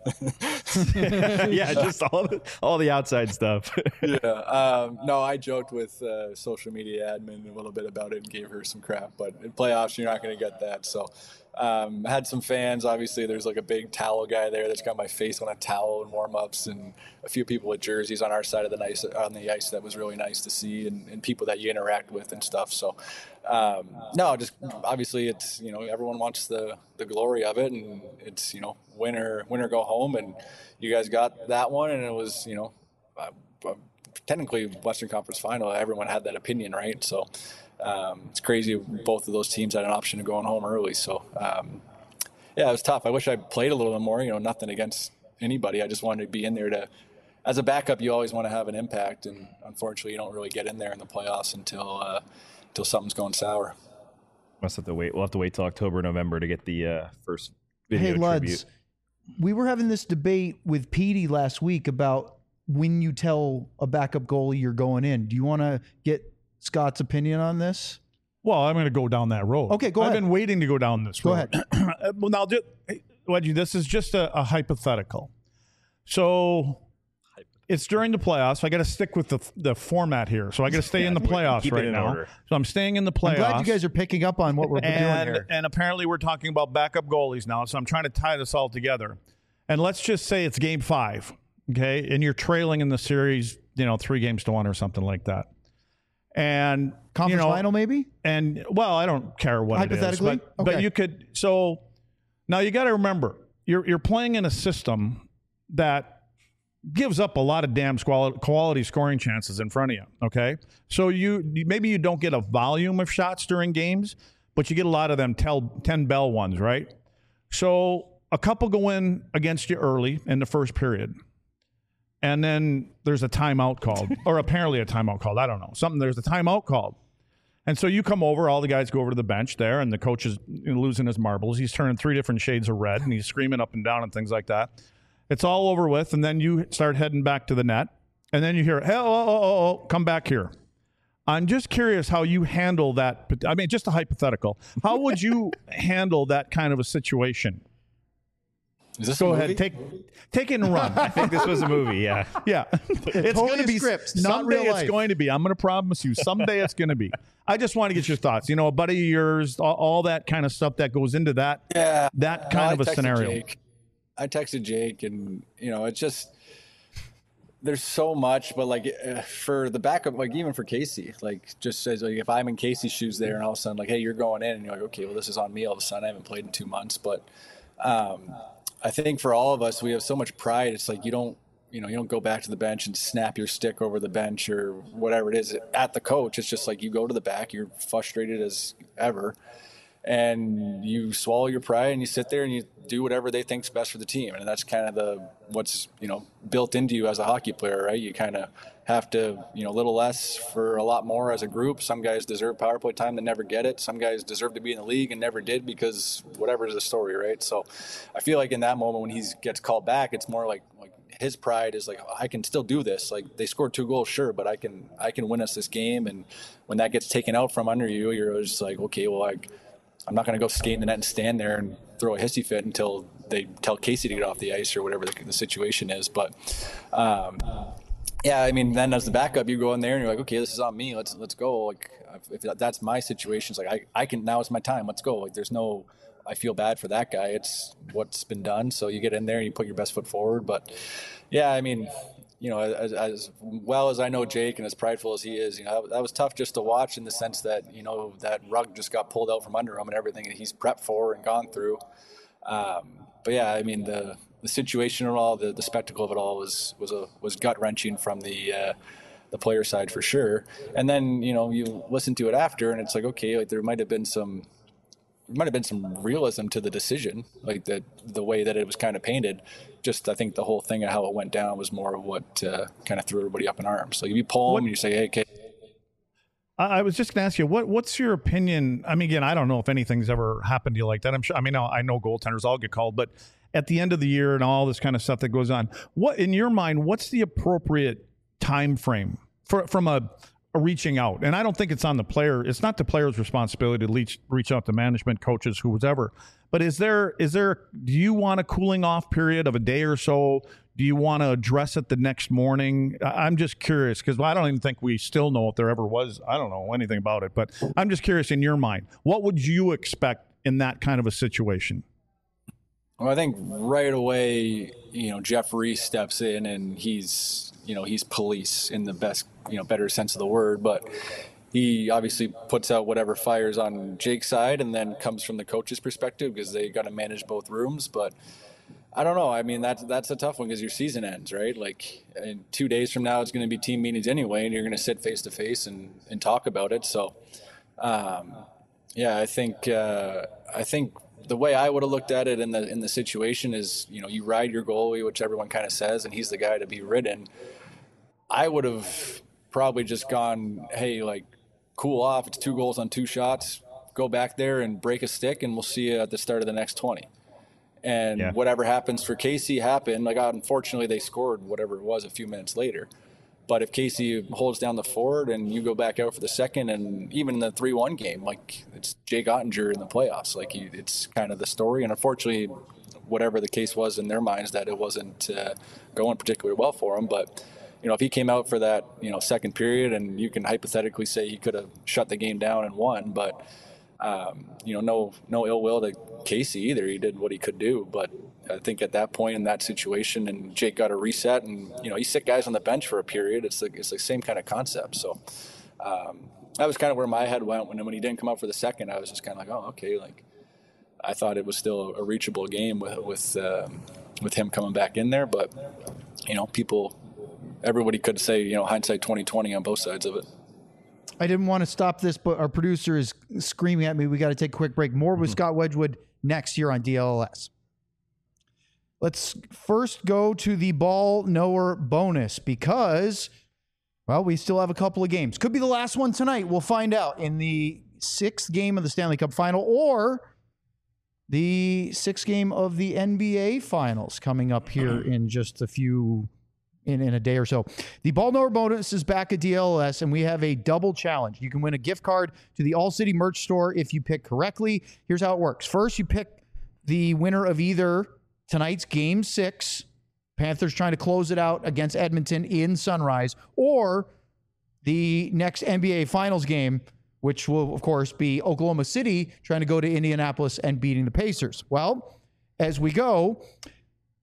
Yeah, just all the, all the outside stuff. Yeah. Um, no, I joked with uh, social media admin a little bit about it and gave her some crap. But in playoffs, you're not going to get that. So um, had some fans. Obviously, there's like a big towel guy there that's got my face on a towel in warm-ups, and a few people with jerseys on our side of the ice, on the ice that was really nice to see, and, and people that you interact with and stuff. So um, no, just obviously it's, you know, everyone wants the, the glory of it, and it's, you know, win or, win or go home, and you guys got that one, and it was, you know, uh, uh, technically Western Conference Final. Everyone had that opinion, right? So um, it's crazy. Both of those teams had an option of going home early. So um, yeah, it was tough. I wish I played a little bit more. You know, nothing against anybody. I just wanted to be in there to. As a backup, you always want to have an impact, and unfortunately, you don't really get in there in the playoffs until uh, until something's going sour. Must have to wait. We'll have to wait till October, November to get the uh, first video Hey, Luds, tribute. we were having this debate with Petey last week about when you tell a backup goalie you're going in. Do you want to get Scott's opinion on this? Well, I'm going to go down that road. Okay, go I've ahead. been waiting to go down this Go road. ahead. Well, now, just, hey, Wedgie, this is just a, a hypothetical. So it's during the playoffs. I got to stick with the the format here. So I got to stay Yeah, in the playoffs keep it right in now. order. So I'm staying in the playoffs. I'm glad you guys are picking up on what we're and, doing here. and apparently we're talking about backup goalies now. So I'm trying to tie this all together. And let's just say it's game five, okay? And you're trailing in the series, you know, three games to one or something like that. And Conference you know, final, maybe? And well, I don't care what it is, Hypothetically? but, but Okay. you could. So now you got to remember, you're you're playing in a system that gives up a lot of damn quality, quality scoring chances in front of you. Okay, so you maybe you don't get a volume of shots during games, but you get a lot of them tell, ten bell ones, right? So a couple go in against you early in the first period. And then there's a timeout called, or apparently a timeout called. I don't know. Something, there's a timeout called. And so you come over, all the guys go over to the bench there, and the coach is losing his marbles. He's turning three different shades of red, and he's screaming up and down and things like that. It's all over with, and then you start heading back to the net. And then you hear, hey, oh, oh, oh, oh, come back here. I'm just curious how you handle that. I mean, just a hypothetical. How would you handle that kind of a situation? Is this Go a ahead, movie? take take it and run. I think this was a movie, yeah. Yeah, it's totally going to be script, not someday. real It's life. going to be. I'm going to promise you. Someday it's going to be. I just want to get your thoughts. You know, a buddy of yours, all, all that kind of stuff that goes into that. Yeah, that No, kind I of a texted scenario. Jake. I texted Jake, and you know, it's just there's so much, but like uh, for the backup, like even for Casey, like just says like if I'm in Casey's shoes there, and all of a sudden like, hey, you're going in, and you're like, okay, well this is on me. All of a sudden, I haven't played in two months, but um, I think for all of us, we have so much pride. It's like you don't, you know, you don't go back to the bench and snap your stick over the bench or whatever it is at the coach. It's just like you go to the back, you're frustrated as ever, and you swallow your pride and you sit there and you do whatever they think's best for the team. And that's kind of the what's, you know, built into you as a hockey player, right? You kind of have to, you know, a little less for a lot more as a group. Some guys deserve power play time that never get it. Some guys deserve to be in the league and never did because whatever is the story, right? So I feel like in that moment when he gets called back, it's more like like his pride is like, I can still do this. Like they scored two goals, sure, but I can I can win us this game. And when that gets taken out from under you, you're just like, okay, well, I I'm not going to go skate in the net and stand there and throw a hissy fit until they tell Casey to get off the ice or whatever the, the situation is. But, um, yeah, I mean, then as the backup, you go in there and you're like, okay, this is on me. Let's let's go. Like, if that's my situation, it's like I, I can now is my time. Let's go. Like, there's no, I feel bad for that guy. It's what's been done. So you get in there and you put your best foot forward. But, yeah, I mean, you know, as, as well as I know Jake and as prideful as he is, you know, that, that was tough just to watch in the sense that, you know, that rug just got pulled out from under him and everything that he's prepped for and gone through. Um, but yeah, I mean, the, the situation and all, the, the spectacle of it all was, was a, was gut wrenching from the, uh, the player side for sure. And then, you know, you listen to it after and it's like, okay, like there might've been some, there might have been some realism to the decision, like that the way that it was kind of painted. Just I think the whole thing of how it went down was more of what uh, kind of threw everybody up in arms. So you pull them and you say, hey, okay. I was just going to ask you, what what's your opinion? I mean, again, I don't know if anything's ever happened to you like that. I'm sure. I mean, I know goaltenders all get called, but at the end of the year and all this kind of stuff that goes on, what in your mind, what's the appropriate time frame for from a reaching out? And I don't think it's on the player. It's not the player's responsibility to reach, reach out to management, coaches, whoever. But is there, is there, do you want a cooling off period of a day or so? Do you want to address it the next morning? I'm just curious because I don't even think we still know if there ever was. I don't know anything about it, but I'm just curious in your mind, what would you expect in that kind of a situation? Well, I think right away, you know, Jeff Reese steps in and he's, you know, he's police in the best, you know, better sense of the word, but he obviously puts out whatever fires on Jake's side and then comes from the coach's perspective because they got to manage both rooms. But I don't know. I mean, that's, that's a tough one because your season ends, right? Like in two days from now, it's going to be team meetings anyway, and you're going to sit face to face and, and talk about it. So, um, yeah, I think, uh, I think, the way I would have looked at it in the in the situation is, you know, you ride your goalie, which everyone kind of says, and he's the guy to be ridden. I would have probably just gone, hey, like, cool off. It's two goals on two shots. Go back there and break a stick, and we'll see you at the start of the next twenty. And yeah. Whatever happens for Casey happened. Like, unfortunately, they scored whatever it was a few minutes later. But if Casey holds down the forward and you go back out for the second, and even in the three one game, like it's Jake Ottinger in the playoffs, like he, it's kind of the story. And unfortunately, whatever the case was in their minds, that it wasn't uh, going particularly well for him. But, you know, if he came out for that, you know, second period, and you can hypothetically say he could have shut the game down and won, but, um, you know, no, no ill will to Casey either. He did what he could do. But I think at that point in that situation, and Jake got a reset, and, you know, he sit guys on the bench for a period. It's the, it's the same kind of concept. So um, that was kind of where my head went when, when he didn't come out for the second. I was just kind of like, oh, okay. Like, I thought it was still a reachable game with, with, um, with him coming back in there. But, you know, people, everybody could say, you know, hindsight twenty twenty on both sides of it. I didn't want to stop this, but our producer is screaming at me. We got to take a quick break. More with mm-hmm. Scott Wedgwood next year on D L L S. Let's first go to the ball knower bonus because, well, we still have a couple of games. Could be the last one tonight. We'll find out in the sixth game of the Stanley Cup Final or the sixth game of the N B A Finals coming up here in just a few In, in a day or so. The Ball Knower bonus is back at D L L S, and we have a double challenge. You can win a gift card to the All City merch store if you pick correctly. Here's how it works. First, you pick the winner of either tonight's Game six, Panthers trying to close it out against Edmonton in Sunrise, or the next N B A Finals game, which will, of course, be Oklahoma City trying to go to Indianapolis and beating the Pacers. Well, as we go,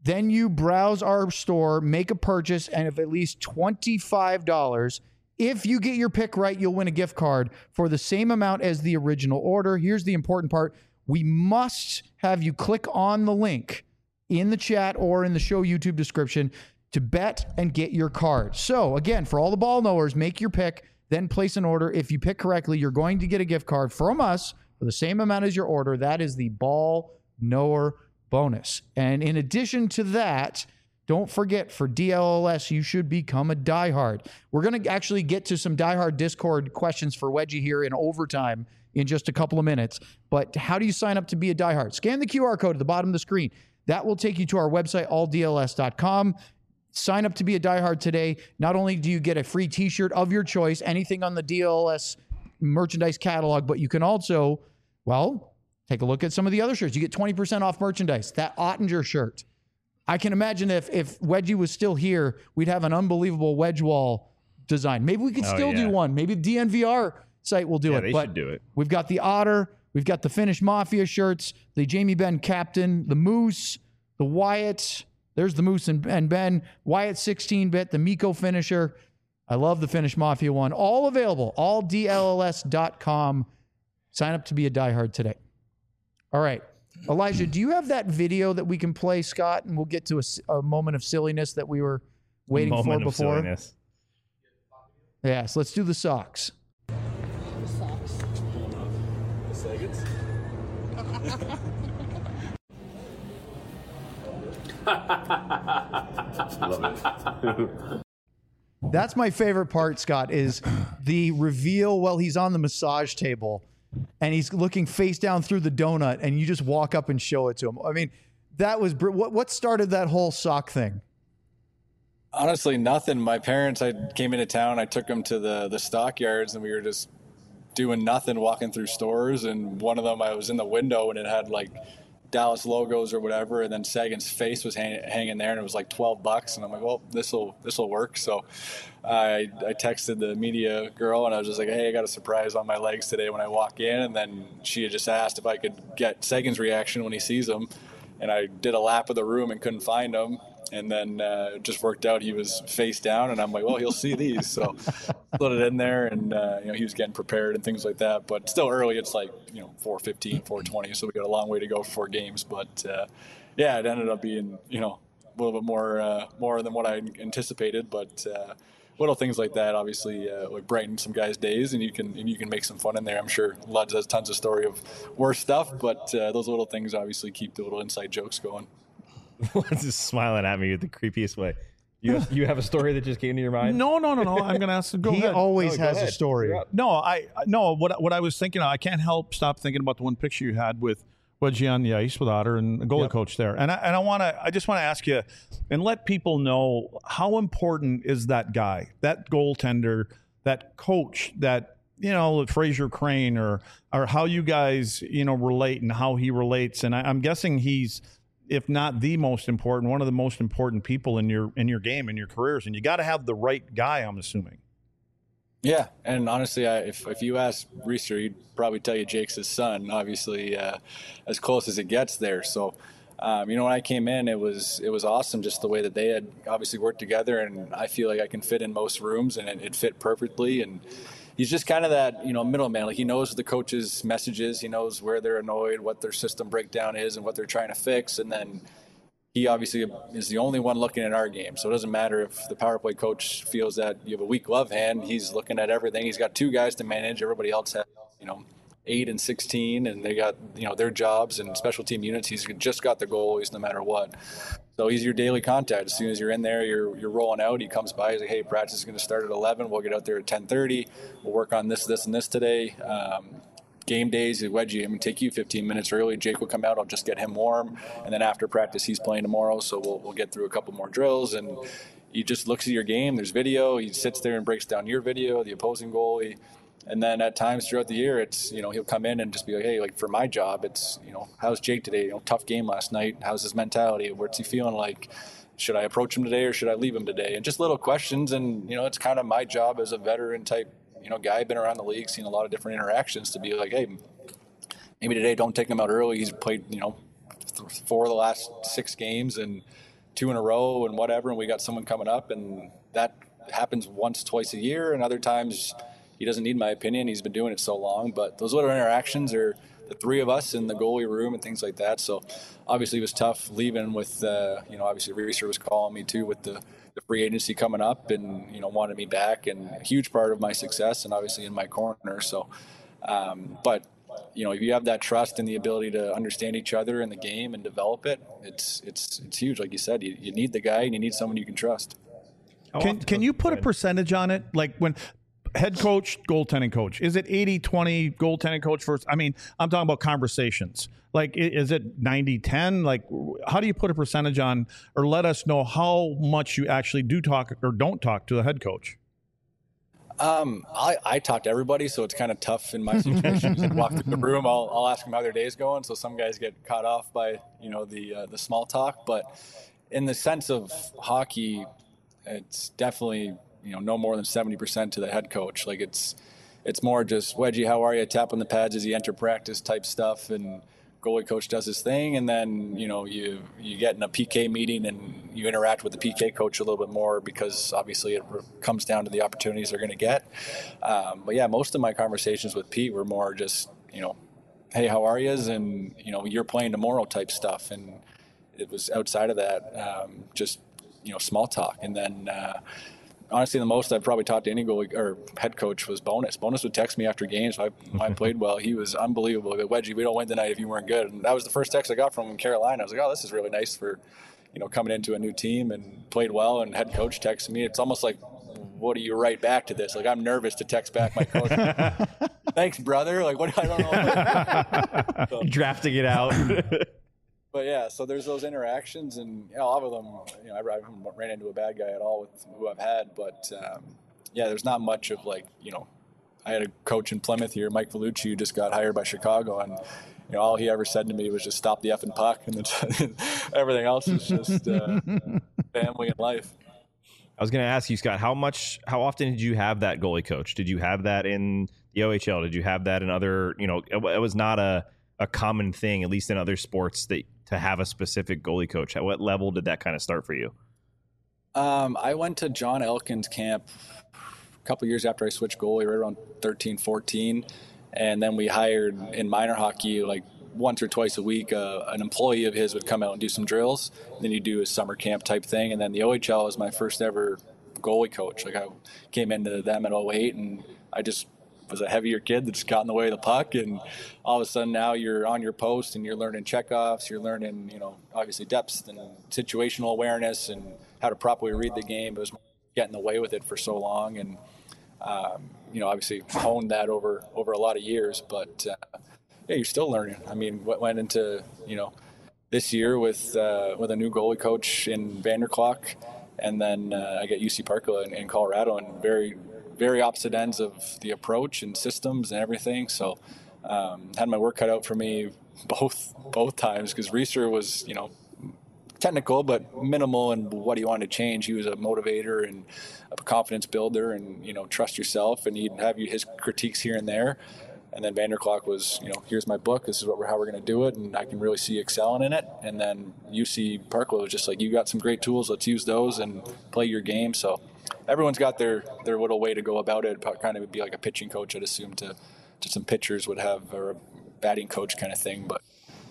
Then you browse our store, make a purchase, and of at least twenty-five dollars. If you get your pick right, you'll win a gift card for the same amount as the original order. Here's the important part. We must have you click on the link in the chat or in the show YouTube description to bet and get your card. So again, for all the ball knowers, make your pick, then place an order. If you pick correctly, you're going to get a gift card from us for the same amount as your order. That is the ball knower bonus. And in addition to that, don't forget, for D L L S, you should become a diehard. We're going to actually get to some diehard Discord questions for Wedgie here in overtime in just a couple of minutes. But how do you sign up to be a diehard? Scan the Q R code at the bottom of the screen. That will take you to our website, all D L S dot com. Sign up to be a diehard today. Not only do you get a free t-shirt of your choice, anything on the D L L S merchandise catalog, but you can also, well, take a look at some of the other shirts. You get twenty percent off merchandise. That Ottinger shirt. I can imagine if if Wedgie was still here, we'd have an unbelievable wedge wall design. Maybe we could Oh, still yeah. do one. Maybe the D N V R site will do Yeah, it. they but should do it. We've got the Otter. We've got the Finnish Mafia shirts, the Jamie Benn Captain, the Moose, the Wyatt. There's the Moose and, and Ben. Wyatt sixteen bit, the Miko finisher. I love the Finnish Mafia one. All available. all D L L S dot com. Sign up to be a diehard today. All right. Elijah, do you have that video that we can play, Scott? And we'll get to a, s- a moment of silliness that we were waiting Moment for of before. silliness. Yes, let's do the socks. That's my favorite part, Scott, is the reveal while he's on the massage table and he's looking face down through the donut and you just walk up and show it to him. I mean, that was br- what what started that whole sock thing? Honestly, nothing. My parents, I came into town, I took them to the, the stockyards, and we were just doing nothing, walking through stores. And one of them, I was in the window, and it had like Dallas logos or whatever, and then Sagan's face was hang, hanging there, and it was like twelve bucks. And I'm like, well, this will this will work. So I I texted the media girl, and I was just like, hey, I got a surprise on my legs today when I walk in. And then she had just asked if I could get Sagan's reaction when he sees them. And I did a lap of the room and couldn't find him. And then uh, it just worked out. He was face down, and I'm like, well, he'll see these. So put it in there, and uh, you know, he was getting prepared and things like that. But still early. It's like, you know, four fifteen, four twenty. So we got a long way to go for games. But uh, yeah, it ended up being, you know, a little bit more uh, more than what I anticipated. But uh, little things like that obviously uh, would brighten some guys' days, and you can and you can make some fun in there. I'm sure Luds has tons of story of worse stuff, but uh, those little things obviously keep the little inside jokes going. Luds is smiling at me with the creepiest way. You have, you have a story that just came to your mind? No, no, no, no. I'm going to ask. Go he ahead. always No, go has a ahead. story. You're up. No, I no. What what I was thinking, of, I can't help stop thinking about the one picture you had with Wedgie on the ice with Otter and the goalie Yep. coach there, and I and I want to. I just want to ask you and let people know how important is that guy, that goaltender, that coach, that you know Fraser Crane, or or how you guys you know relate and how he relates, and I, I'm guessing he's, if not the most important, one of the most important people in your in your game, in your careers, and you got to have the right guy. I'm assuming. Yeah, and honestly, I, if if you ask Reeser, he'd probably tell you Jake's his son. Obviously, uh, as close as it gets there. So, um, you know, when I came in, it was it was awesome just the way that they had obviously worked together, and I feel like I can fit in most rooms, and it, it fit perfectly. And he's just kind of that, you know, middleman. Like, he knows the coach's messages, he knows where they're annoyed, what their system breakdown is, and what they're trying to fix, and then he obviously is the only one looking at our game. So it doesn't matter if the power play coach feels that you have a weak glove hand. He's looking at everything. He's got two guys to manage. Everybody else has, you know, eight and sixteen, and they got, you know, their jobs and special team units. He's just got the goalies no matter what. So he's your daily contact. As soon as you're in there, you're you're rolling out. He comes by. He's like, hey, practice is going to start at eleven. We'll get out there at ten thirty. We'll work on this, this, and this today. Um, Game days, Wedgie, I'm going to take you fifteen minutes early. Jake will come out. I'll just get him warm. And then after practice, he's playing tomorrow. So we'll we'll get through a couple more drills. And he just looks at your game. There's video. He sits there and breaks down your video, the opposing goalie. And then at times throughout the year, it's, you know, he'll come in and just be like, hey, like for my job, it's, you know, how's Jake today? You know, tough game last night. How's his mentality? What's he feeling like? Should I approach him today or should I leave him today? And just little questions. And, you know, it's kind of my job as a veteran type, you know, guy, been around the league, seen a lot of different interactions, to be like, hey, maybe today don't take him out early. He's played, you know, four of the last six games, and two in a row and whatever, and we got someone coming up, and that happens once, twice a year, and other times he doesn't need my opinion. He's been doing it so long, but those little interactions are the three of us in the goalie room and things like that. So obviously it was tough leaving with, uh, you know, obviously Reeser was calling me too with the, the free agency coming up and, you know, wanted me back, and a huge part of my success and obviously in my corner. So, um, but, you know, if you have that trust and the ability to understand each other in the game and develop it, it's, it's, it's huge. Like you said, you, you need the guy and you need someone you can trust. Can, can you put a percentage on it? Like when head coach, goaltending coach, is it eighty twenty goaltending coach first? I mean, I'm talking about conversations. Like, is it ninety ten? Like, how do you put a percentage on, or let us know how much you actually do talk or don't talk to the head coach? Um, I, I talk to everybody, so it's kind of tough in my situation. Just walk through the room, I'll, I'll ask them how their day's going. So some guys get caught off by, you know, the uh, the small talk. But in the sense of hockey, it's definitely, you know, no more than seventy percent to the head coach. Like it's, it's more just, Wedgie, how are you? Tap on the pads as you enter practice type stuff. And goalie coach does his thing. And then, you know, you, you get in a P K meeting and you interact with the P K coach a little bit more, because obviously it comes down to the opportunities they're going to get. Um, but yeah, most of my conversations with Pete were more just, you know, hey, how are you? And, you know, you're playing tomorrow type stuff. And it was outside of that, um, just, you know, small talk. And then, uh, honestly, the most I've probably talked to any goalie or head coach was Bonus. Bonus would text me after games if I, I played well. He was unbelievable. Wedgie, we don't win tonight if you weren't good. And that was the first text I got from him in Carolina. I was like, oh, this is really nice for, you know, coming into a new team and played well. And head coach texted me. It's almost like, what do you write back to this? Like, I'm nervous to text back my coach. Thanks, brother. Like, what? I don't know. So, drafting it out. But yeah, so there's those interactions, and you know, all of them, you know, I haven't ran into a bad guy at all with who I've had, but um, yeah, there's not much of like, you know, I had a coach in Plymouth here, Mike Vellucci, who just got hired by Chicago, and you know, all he ever said to me was just stop the effing puck, and then everything else is just uh, family and life. I was going to ask you, Scott, how much, how often did you have that goalie coach? Did you have that in the O H L? Did you have that in other, you know, it, it was not a, a common thing, at least in other sports, that to have a specific goalie coach. At what level did that kind of start for you? Um, I went to John Elkins camp a couple of years after I switched goalie, right around thirteen, fourteen. And then we hired in minor hockey, like once or twice a week, uh, an employee of his would come out and do some drills. And then you do a summer camp type thing. And then the O H L was my first ever goalie coach. Like I came into them at oh eight, and I just was a heavier kid that just got in the way of the puck, and all of a sudden now you're on your post and you're learning checkoffs, you're learning, you know, obviously depth and situational awareness and how to properly read the game. It was getting away with it for so long, and um, you know, obviously honed that over over a lot of years. But uh, yeah, you're still learning. I mean, what went into, you know, this year with uh, with a new goalie coach in Vanderklok, and then uh, I get U C Parkland in, in Colorado, and very very opposite ends of the approach and systems and everything. So um, had my work cut out for me both both times, because Reeser was, you know, technical but minimal in what he wanted to change. He was a motivator and a confidence builder, and, you know, trust yourself, and he'd have you his critiques here and there. And then Vanderklok was, you know, here's my book, this is what we're, how we're going to do it, and I can really see you excelling in it. And then U C Parkland was just like, you got some great tools, let's use those and play your game. So everyone's got their, their little way to go about it. It kind of would be like a pitching coach, I'd assume, to, to some pitchers would have, or a batting coach kind of thing. But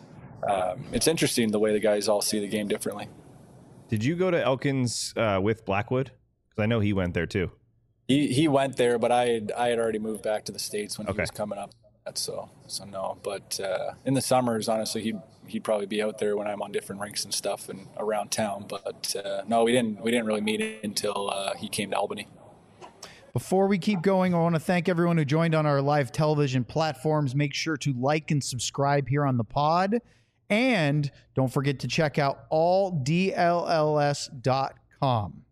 um, it's interesting the way the guys all see the game differently. Did you go to Elkins uh, with Blackwood? Because I know he went there too. He he went there, but I had, I had already moved back to the States when okay. he was coming up. So so no. But uh, in the summers, honestly, he'd he'd probably be out there when I'm on different rinks and stuff and around town. But uh, no, we didn't we didn't really meet until uh, he came to Albany. Before we keep going, I want to thank everyone who joined on our live television platforms. Make sure to like and subscribe here on the pod. And don't forget to check out all D L L S dot com.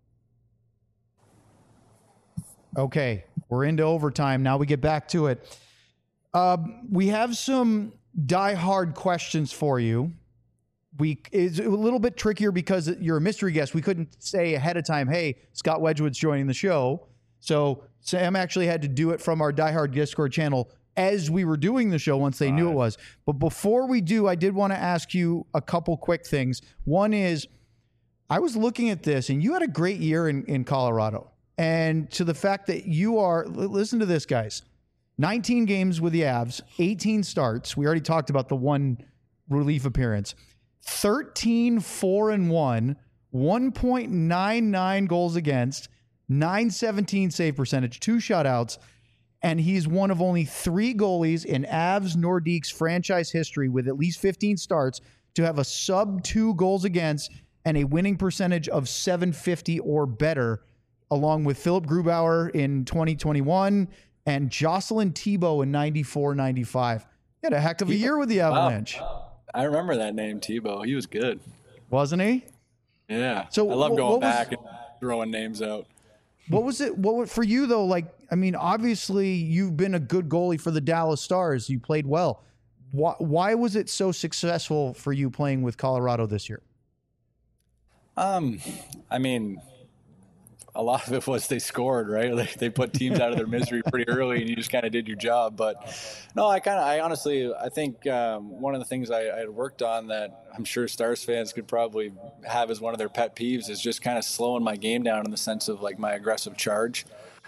Okay, we're into overtime. Now we get back to it. Uh, we have some die-hard questions for you. We It's a little bit trickier because you're a mystery guest. We couldn't say ahead of time, hey, Scott Wedgewood's joining the show. So Sam actually had to do it from our Die Hard Discord channel as we were doing the show once they knew it was. But before we do, I did want to ask you a couple quick things. One is, I was looking at this, and you had a great year in, in Colorado. And to the fact that you are, listen to this, guys, nineteen games with the Avs, eighteen starts. We already talked about the one relief appearance. thirteen, four, and one, one point nine nine goals against, nine seventeen save percentage, two shutouts, and he's one of only three goalies in Avs Nordique's franchise history with at least fifteen starts to have a sub two goals against and a winning percentage of seven fifty or better, along with Philip Grubauer in twenty twenty-one and Jocelyn Thibault in ninety-four ninety-five. He had a heck of a year with the Avalanche. Wow. I remember that name, Thibault. He was good. Wasn't he? Yeah. So I love what- going what was- back and throwing names out. What was it? What was- for you though? Like, I mean, obviously you've been a good goalie for the Dallas Stars. You played well. Why, why was it so successful for you playing with Colorado this year? Um, I mean, a lot of it was they scored, right? Like they put teams out of their misery pretty early, and you just kind of did your job. But no, I kind of, I honestly, I think um, one of the things I, I had worked on that I'm sure Stars fans could probably have as one of their pet peeves is just kind of slowing my game down in the sense of like my aggressive charge.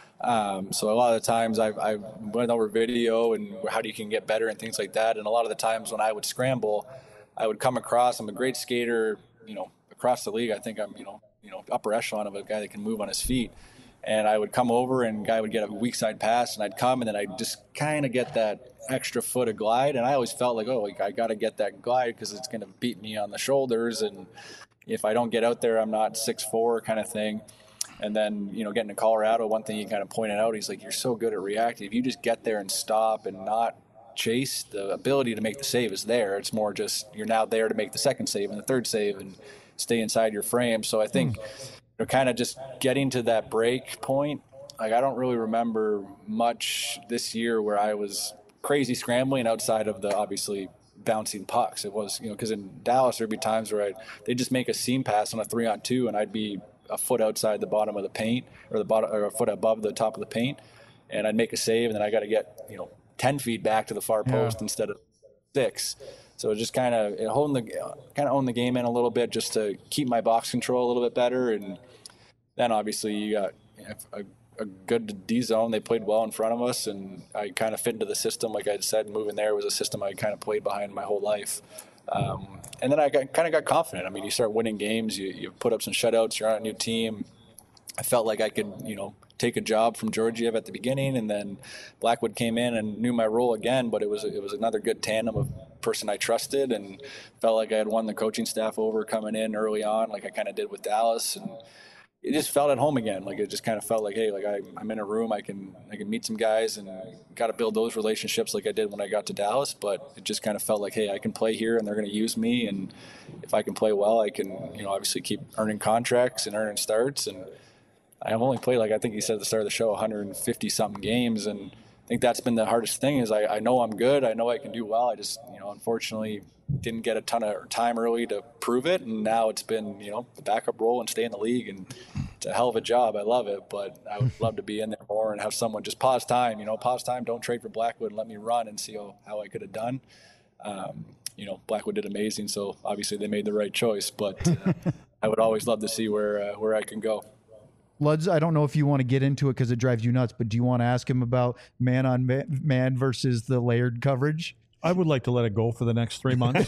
Um, so a lot of the times I, I went over video and how you can get better and things like that. And a lot of the times when I would scramble, I would come across, I'm a great skater, you know, across the league. I think I'm, you know, you know, upper echelon of a guy that can move on his feet. And I would come over and guy would get a weak side pass and I'd come and then I'd just kind of get that extra foot of glide. And I always felt like, oh, like I got to get that glide because it's going to beat me on the shoulders. And if I don't get out there, I'm not six four kind of thing. And then, you know, getting to Colorado, one thing he kind of pointed out, he's like, you're so good at reacting. If you just get there and stop and not chase, the ability to make the save is there. It's more just you're now there to make the second save and the third save and stay inside your frame. So I think you're kind of just getting to that break point. Like, I don't really remember much this year where I was crazy scrambling outside of the obviously bouncing pucks. It was, you know, because in Dallas there'd be times where I'd, they'd just make a seam pass on a three on two and I'd be a foot outside the bottom of the paint or the bottom or a foot above the top of the paint. And I'd make a save and then I got to get, you know, ten feet back to the far post yeah. instead of six. So just kind of holding the kind of own the game in a little bit just to keep my box control a little bit better. And then obviously you got a, a good D zone. They played well in front of us, and I kind of fit into the system. Like I said, moving there was a system I kind of played behind my whole life. Um, and then I got, kind of got confident. I mean, you start winning games, you, you put up some shutouts, you're on a new team. I felt like I could, you know, take a job from Georgiev at the beginning, and then Blackwood came in and knew my role again, but it was it was another good tandem of person I trusted, and felt like I had won the coaching staff over coming in early on, like I kind of did with Dallas, and it just felt at home again. Like it just kind of felt like, hey, like I, I'm in a room, I can I can meet some guys, and got to build those relationships like I did when I got to Dallas. But it just kind of felt like, hey, I can play here, and they're going to use me, and if I can play well, I can, you know, obviously keep earning contracts and earning starts. And I've only played, like I think you said at the start of the show, one hundred fifty something games, and I think that's been the hardest thing. Is I, I know I'm good, I know I can do well. I just, you know, unfortunately didn't get a ton of time early to prove it, and now it's been, you know, the backup role and stay in the league, and it's a hell of a job. I love it, but I would love to be in there more and have someone just pause time, you know, pause time, don't trade for Blackwood, and let me run and see how, how I could have done. Um, you know, Blackwood did amazing, so obviously they made the right choice, but uh, I would always love to see where uh, where I can go. Luds, I don't know if you want to get into it because it drives you nuts, but do you want to ask him about man on man versus the layered coverage? I would like to let it go for the next three months.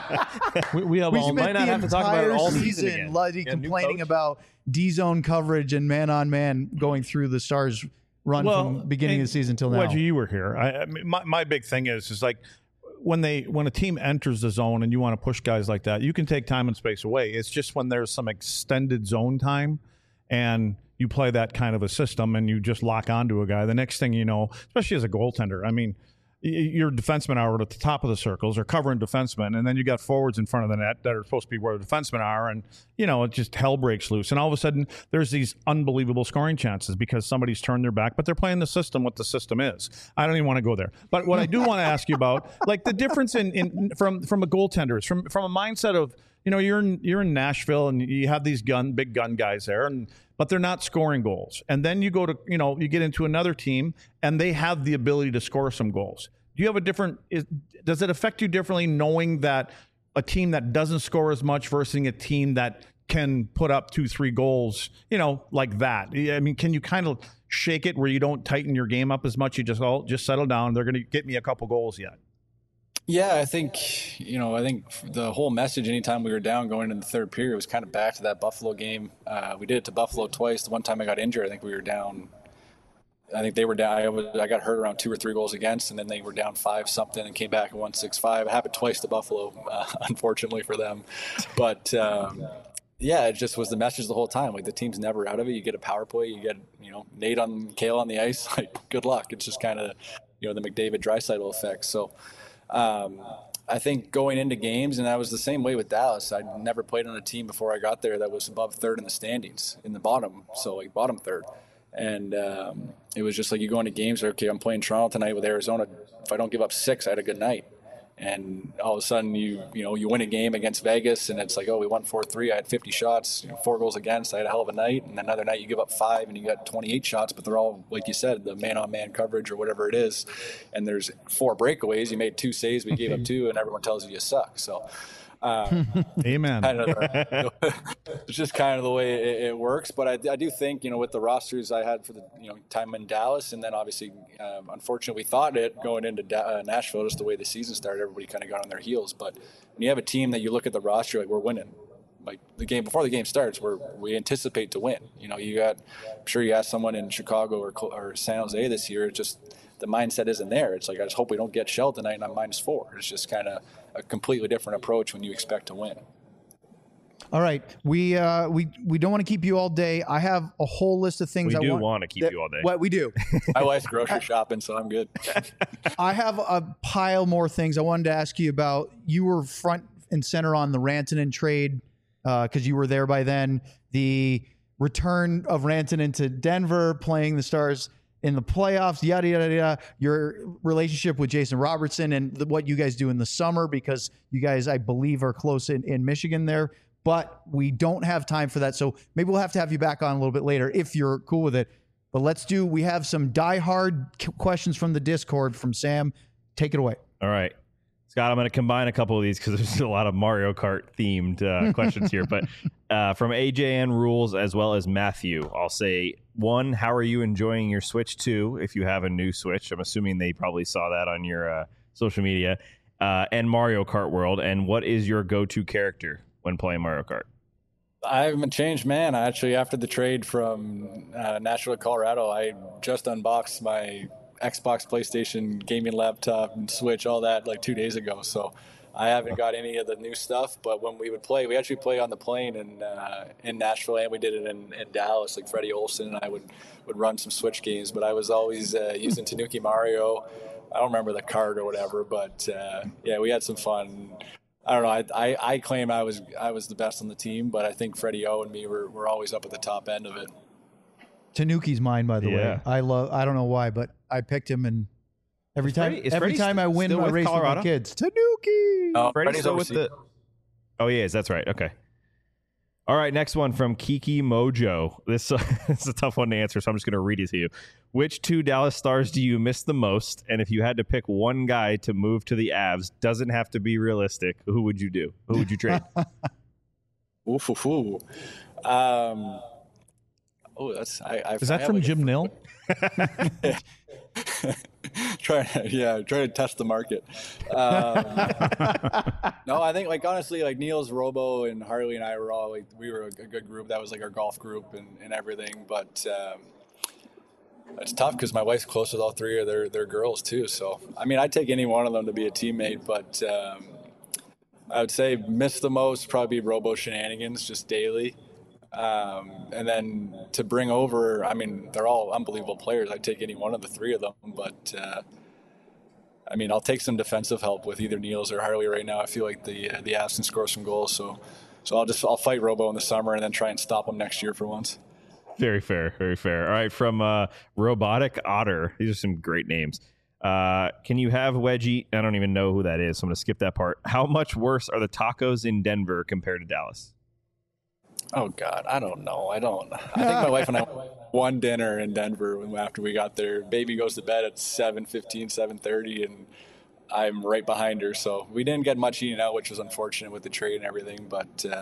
we, we have we all might not have to talk about it all season. season Luddy yeah, complaining about D-zone coverage and man on man going through the Stars run well, from beginning of the season till now. Wedgie, you were here. I, I mean, my my big thing is is like when they when a team enters the zone and you want to push guys like that, you can take time and space away. It's just when there's some extended zone time and you play that kind of a system and you just lock onto a guy, the next thing you know, especially as a goaltender, I mean, your defensemen are at the top of the circles or covering defensemen, and then you got forwards in front of the net that are supposed to be where the defensemen are, and, you know, it just hell breaks loose. And all of a sudden, there's these unbelievable scoring chances because somebody's turned their back, but they're playing the system what the system is. I don't even want to go there. But what I do want to ask you about, like the difference in, in from from a goaltender is from, from a mindset of, you know, you're in, you're in Nashville and you have these gun big gun guys there, and but they're not scoring goals. And then you go to, you know, you get into another team and they have the ability to score some goals. Do you have a different, is, does it affect you differently knowing that a team that doesn't score as much versus a team that can put up two, three goals, you know, like that? I mean, can you kind of shake it where you don't tighten your game up as much? You just all just settle down. They're going to get me a couple goals yet. Yeah, I think, you know, I think the whole message anytime we were down going into the third period was kind of back to that Buffalo game. Uh, we did it to Buffalo twice. The one time I got injured, I think we were down. I think they were down. I, was, I got hurt around two or three goals against, and then they were down five something and came back and won six five. It happened twice to Buffalo, uh, unfortunately for them. But um, yeah, it just was the message the whole time. Like, the team's never out of it. You get a power play, you get, you know, Nate on Kale on the ice. Like, good luck. It's just kind of, you know, the McDavid Draisaitl effect. So. Um, I think going into games, and I was the same way with Dallas. I'd never played on a team before I got there that was above third in the standings, in the bottom, so like bottom third. And um, it was just like you go into games, like, okay, I'm playing Toronto tonight with Arizona. If I don't give up six, I had a good night. And all of a sudden, you you know, you win a game against Vegas, and it's like, oh, we won four three. I had fifty shots, you know, four goals against. I had a hell of a night. And another night, you give up five, and you got twenty-eight shots, but they're all, like you said, the man-on-man coverage or whatever it is. And there's four breakaways. You made two saves, we gave up two, and everyone tells you you suck. So, um, amen. Kind of, it's just kind of the way it, it works. But I, I do think, you know, with the rosters I had for the, you know, time in Dallas, and then obviously, um, unfortunately, we thought it going into da- uh, Nashville, just the way the season started, everybody kind of got on their heels. But when you have a team that you look at the roster, like, we're winning. Like, the game before the game starts, we're, we anticipate to win. You know, you got, I'm sure you asked someone in Chicago or, or San Jose this year, just the mindset isn't there. It's like, I just hope we don't get shelled tonight and I'm minus four. It's just kind of a completely different approach when you expect to win. All right, we uh, we we don't want to keep you all day. I have a whole list of things We I do want, want to keep that- you all day. What we do. My wife's grocery shopping, so I'm good. I have a pile more things I wanted to ask you about. You were front and center on the Rantanen trade because uh, you were there by then. The return of Rantanen to Denver, playing the Stars in the playoffs, yada, yada, yada. Your relationship with Jason Robertson and the, what you guys do in the summer, because you guys, I believe, are close in, in Michigan there. But we don't have time for that. So maybe we'll have to have you back on a little bit later if you're cool with it. But let's do, we have some diehard questions from the Discord from Sam. Take it away. All right. Scott, I'm going to combine a couple of these because there's a lot of Mario Kart themed uh, questions here. But uh, from A J N Rules as well as Matthew, I'll say, one, how are you enjoying your Switch? Two, if you have a new Switch. I'm assuming they probably saw that on your uh, social media. Uh, and Mario Kart World. And what is your go-to character when playing Mario Kart? I haven't changed, man. Actually, after the trade from uh, Nashville to Colorado, I just unboxed my Xbox, PlayStation, gaming laptop, and Switch, all that, like two days ago. So I haven't got any of the new stuff. But when we would play, we actually play on the plane in uh, in Nashville, and we did it in, in Dallas. Like Freddie Olsen and I would, would run some Switch games. But I was always uh, using Tanuki Mario. I don't remember the card or whatever, but uh, yeah, we had some fun. I don't know. I, I I claim I was I was the best on the team, but I think Freddie O and me were, were always up at the top end of it. Tanuki's mine, by the Yeah. way. I love. I don't know why, but I picked him, and every Is time, Freddie- is every Freddie time I win still my with race with Colorado? my kids, Tanuki. Uh, Freddie's Freddie's still with overseas. the. Oh, he is. That's right. Okay. All right. Next one from Kiki Mojo. This, uh, this is a tough one to answer, so I'm just going to read it to you. Which two Dallas Stars do you miss the most? And if you had to pick one guy to move to the Avs, doesn't have to be realistic, who would you do? Who would you trade? Oof, oof, oof. Um, oh, that's I. I Is that I from have Jim like Nill? a- try, yeah, try to test the market. Um, no, I think like honestly, like Niels, Robo, and Harley and I were all like we were a, a good group. That was like our golf group and, and everything. But um, it's tough because my wife's close with all three of their their girls too. So I mean, I'd take any one of them to be a teammate, but. Um, I would say miss the most probably Robo shenanigans just daily. Um, and then to bring over, I mean, they're all unbelievable players. I'd take any one of the three of them. But, uh, I mean, I'll take some defensive help with either Niels or Harley right now. I feel like the uh, the Avs can score some goals. So so I'll just I'll fight Robo in the summer and then try and stop him next year for once. Very fair. Very fair. All right. From uh, Robotic Otter. These are some great names. Uh, can you have Wedgie? I don't even know who that is, so I'm going to skip that part. How much worse are the tacos in Denver compared to Dallas? Oh, God, I don't know. I don't. I think my wife and I went one dinner in Denver when, after we got there. Baby goes to bed at seven fifteen, seven thirty, and I'm right behind her. So we didn't get much eating out, which was unfortunate with the trade and everything. But uh,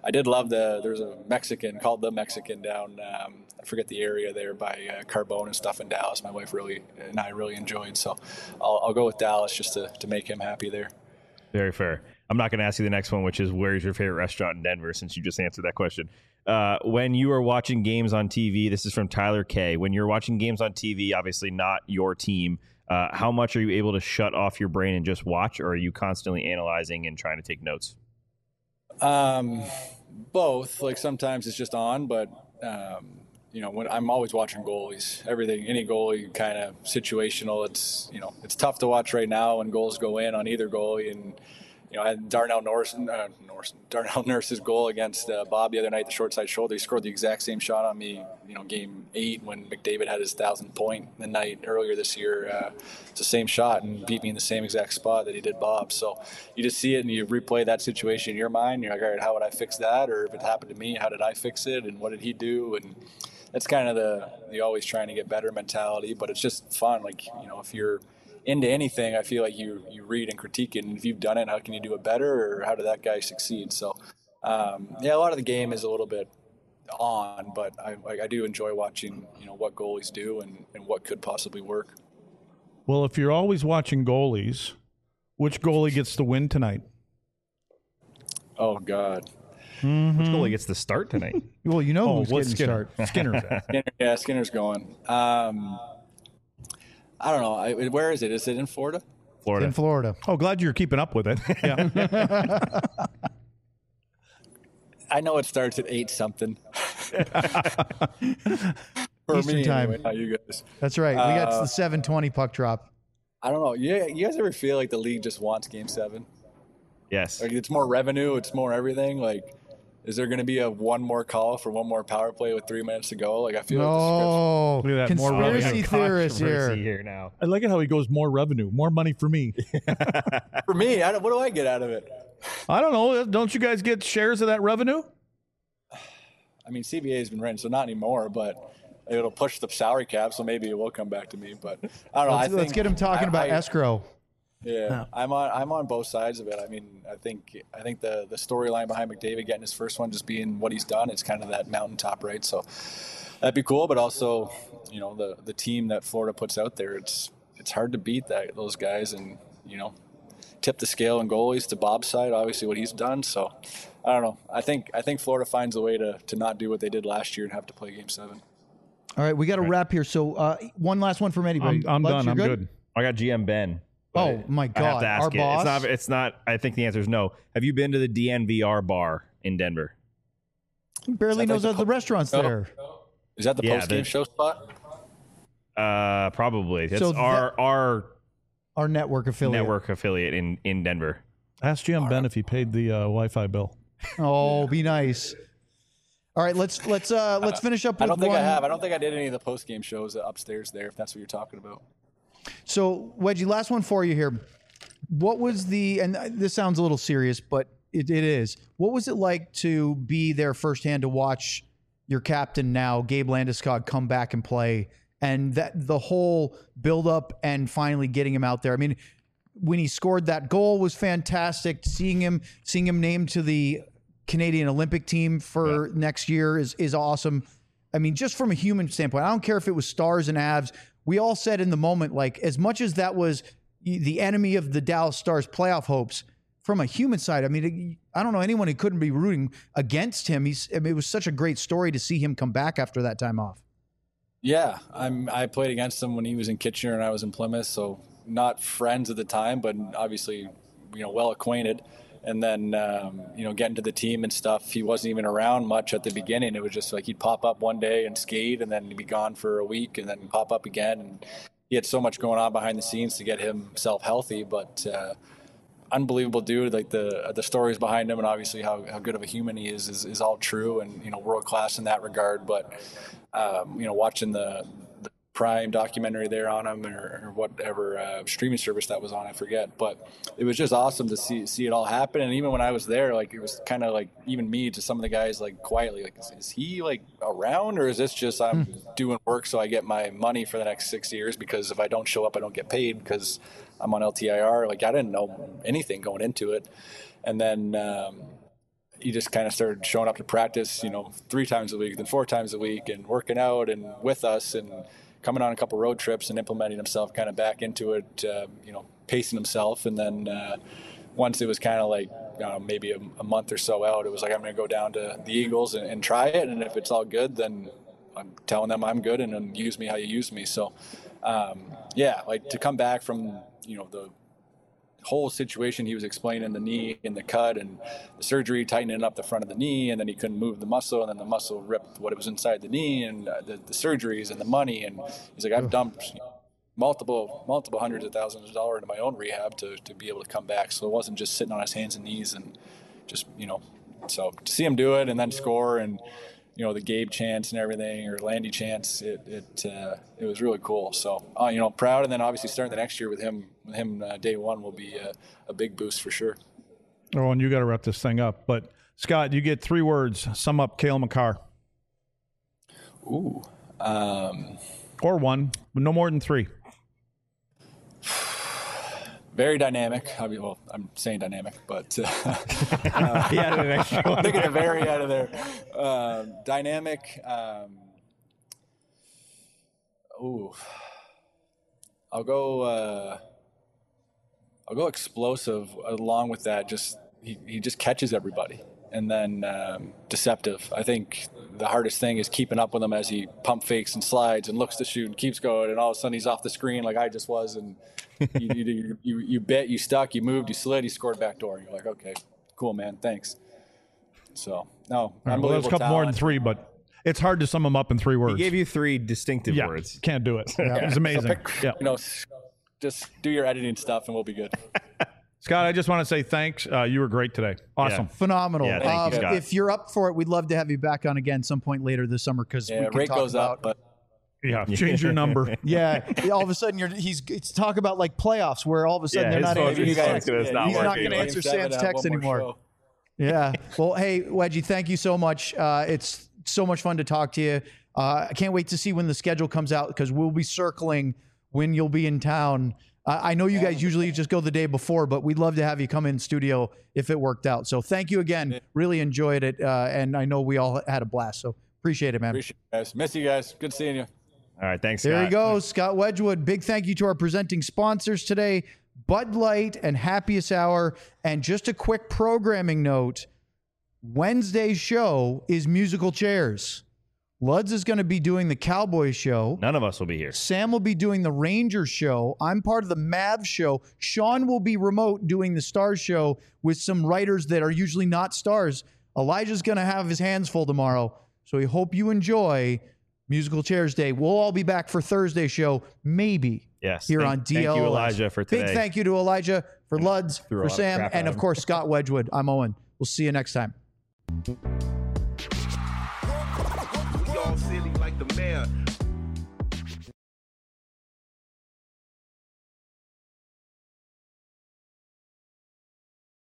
I did love the, there's a Mexican called the Mexican down, um, I forget the area there by uh, Carbone and stuff in Dallas. My wife really and I really enjoyed. So I'll, I'll go with Dallas just to, to make him happy there. Very fair. I'm not going to ask you the next one, which is where's your favorite restaurant in Denver, since you just answered that question. Uh, when you are watching games on T V, this is from Tyler K. When you're watching games on T V, obviously not your team, uh, how much are you able to shut off your brain and just watch, or are you constantly analyzing and trying to take notes? Um, both. Like sometimes it's just on, but um, you know, when I'm always watching goalies, everything, any goalie kind of situational. It's, you know, it's tough to watch right now when goals go in on either goalie. And, you know, I had Darnell Norris, uh, Norris, Darnell Nurse's goal against uh, Bob the other night, the short side shoulder. He scored the exact same shot on me, you know, game eight when McDavid had his thousand point the night earlier this year. Uh, it's the same shot and beat me in the same exact spot that he did Bob. So you just see it and you replay that situation in your mind. You're like, all right, how would I fix that? Or if it happened to me, how did I fix it? And what did he do? And that's kind of the, the always trying to get better mentality, but it's just fun. Like, you know, if you're into anything, I feel like you you read and critique it, and if you've done it, how can you do it better, or how did that guy succeed? So, um, yeah, a lot of the game is a little bit on, but I, I do enjoy watching, you know, what goalies do and, and what could possibly work. Well, if you're always watching goalies, which goalie gets the win tonight? Oh, God. Mm-hmm. Which goalie gets the start tonight? Well, you know Oh, who's what's getting Skinner? start. Skinner's at. Skinner, yeah, Skinner's going. Um, I don't know. I, where is it? Is it in Florida? Florida. In Florida. Oh, glad you're keeping up with it. Yeah. I know it starts at eight something. For Eastern me, time. anyway, not you guys. That's right. We got Uh, the seven twenty puck drop. I don't know. Yeah, you guys ever feel like the league just wants Game Seven? Yes. Like it's more revenue, it's more everything. Like, is there going to be a one more call for one more power play with three minutes to go? Like, I feel like No. Look at that, more Conspiracy revenue. theorists Controversy here. here now. I like it how he goes more revenue, more money for me. the, for me, I don't, what do I get out of it? I don't know. Don't you guys get shares of that revenue? I mean, C B A has been written, so not anymore, but it'll push the salary cap, so maybe it will come back to me. But I don't know. Let's, I think, let's get him talking I, about I, escrow. Yeah, I'm on. I'm on both sides of it. I mean, I think I think the the storyline behind McDavid getting his first one, just being what he's done, it's kind of that mountaintop, right? So that'd be cool. But also, you know, the the team that Florida puts out there, it's it's hard to beat that those guys, and you know, tip the scale in goalies to Bob's side. Obviously, what he's done. So I don't know. I think I think Florida finds a way to to not do what they did last year and have to play Game Seven. All right, we got to wrap here. So uh, one last one from anybody. I'm, I'm Lex, done. you're I'm good. I got G M Ben. Oh, my I have God. to ask Our it. boss? It's not, it's not, I think the answer is no. Have you been to the D N V R bar in Denver? He barely Is that knows like that the the restaurant's Oh. there. Is that the Yeah, post game the- show spot? Uh, probably. It's So our our Our network affiliate. network affiliate in, in Denver. Ask Jim Ben if he paid the uh, Wi-Fi bill. Oh, be nice. All right, let's let's uh let's finish up with I don't think one. I have. I don't think I did any of the post game shows upstairs there. If that's what you're talking about. So, Wedgie, last one for you here. What was the, and this sounds a little serious, but it, it is. What was it like to be there firsthand to watch your captain now, Gabe Landeskog, come back and play, and that the whole build up and finally getting him out there? I mean, when he scored that goal was fantastic. Seeing him, seeing him named to the Canadian Olympic team for yeah. next year is is awesome. I mean, just from a human standpoint, I don't care if it was Stars and Avs. We all said in the moment, like, as much as that was the enemy of the Dallas Stars playoff hopes, from a human side, I mean, I don't know anyone who couldn't be rooting against him. He's, I mean, it was such a great story to see him come back after that time off. Yeah, I'm. I played against him when he was in Kitchener and I was in Plymouth, so not friends at the time, but obviously, you know, well acquainted. And then, um, you know, getting to the team and stuff, he wasn't even around much at the beginning. It was just like he'd pop up one day and skate, and then he'd be gone for a week, and then pop up again. And he had so much going on behind the scenes to get himself healthy, but uh, unbelievable dude. Like the the stories behind him, and obviously how, how good of a human he is, is, is all true, and you know, world class in that regard. But um, you know, watching the, the Prime documentary there on him, or, or whatever uh, streaming service that was on, I forget. But it was just awesome to see see it all happen. And even when I was there, like, it was kind of like even me to some of the guys, like, quietly, like, is, is he like around, or is this just I'm hmm. doing work so I get my money for the next six years? Because if I don't show up, I don't get paid because I'm on L T I R. Like, I didn't know anything going into it. And then um, he just kind of started showing up to practice, you know, three times a week, then four times a week, and working out and with us and coming on a couple road trips and implementing himself kind of back into it, uh, you know, pacing himself. And then uh, once it was kind of like uh, maybe a, a month or so out, it was like, I'm going to go down to the Eagles and, and try it. And if it's all good, then I'm telling them I'm good and, and use me how you use me. So, um, yeah, like to come back from, you know, the whole situation he was explaining, the knee and the cut and the surgery, tightening up the front of the knee, and then he couldn't move the muscle, and then the muscle ripped what was inside the knee, and uh, the, the surgeries and the money. And he's like, I've dumped multiple multiple hundreds of thousands of dollars into my own rehab to, to be able to come back. So it wasn't just sitting on his hands and knees and just, you know, so to see him do it and then score, and you know, the Gabe chance and everything, or Landy chance, it it uh, it was really cool. So, uh, you know, proud. And then obviously starting the next year with him, with him uh, day one will be a, a big boost for sure. Oh, and you got to wrap this thing up. But Scott, you get three words. Sum up Cale Makar. Ooh. Um, or one, but no more than three. Very dynamic. I mean, well, I'm saying dynamic, but uh, uh, yeah, taking a very out of there. Uh, dynamic. Um, ooh, I'll go. Uh, I'll go explosive. Along with that, just he, he just catches everybody, and then um, deceptive. I think the hardest thing is keeping up with him as he pump fakes and slides and looks to shoot and keeps going, and all of a sudden he's off the screen like I just was, and. you, you, you, you bit, you stuck, you moved, you slid, you scored back door. You're like, okay, cool, man, thanks. So, no, right, well, there's a couple talent. more than three, but it's hard to sum them up in three words. He gave you three distinctive yeah, words. Can't do it. Yeah, yeah. It was amazing. So pick, yeah. You know, just do your editing stuff and we'll be good. Scott, I just want to say thanks. Uh, you were great today. Awesome. Yeah. Phenomenal. Yeah, thank um, you, Scott. If you're up for it, we'd love to have you back on again some point later this summer because yeah, we can rate talk goes about, up, but yeah, change your number. yeah, all of a sudden you're he's it's talk about like playoffs where all of a sudden yeah, they're not answering. You guys, yeah, he's not, he's not going to answer Sam's text anymore. Yeah. Well, hey, Wedgie, thank you so much. Uh, it's so much fun to talk to you. Uh, I can't wait to see when the schedule comes out because we'll be circling when you'll be in town. Uh, I know you guys usually just go the day before, but we'd love to have you come in studio if it worked out. So thank you again. Really enjoyed it. Uh, and I know we all had a blast. So appreciate it, man. Appreciate it, guys. Miss you guys. Good seeing you. All right, thanks, Scott. There he goes, Scott Wedgwood. Big thank you to our presenting sponsors today, Bud Light and Happiest Hour. And just a quick programming note, Wednesday's show is Musical Chairs. Luds is going to be doing the Cowboys show. None of us will be here. Sam will be doing the Rangers show. I'm part of the Mavs show. Sean will be remote doing the Stars show with some writers that are usually not stars. Elijah's going to have his hands full tomorrow. So we hope you enjoy Musical Chairs Day. We'll all be back for Thursday's show, maybe. Yes. Here thank, on D L S. Thank you, Elijah, for today. Big thank you to Elijah, for Luds, for Sam, and of him. course, Scott Wedgwood. I'm Owen. We'll see you next time. We all silly like the mayor.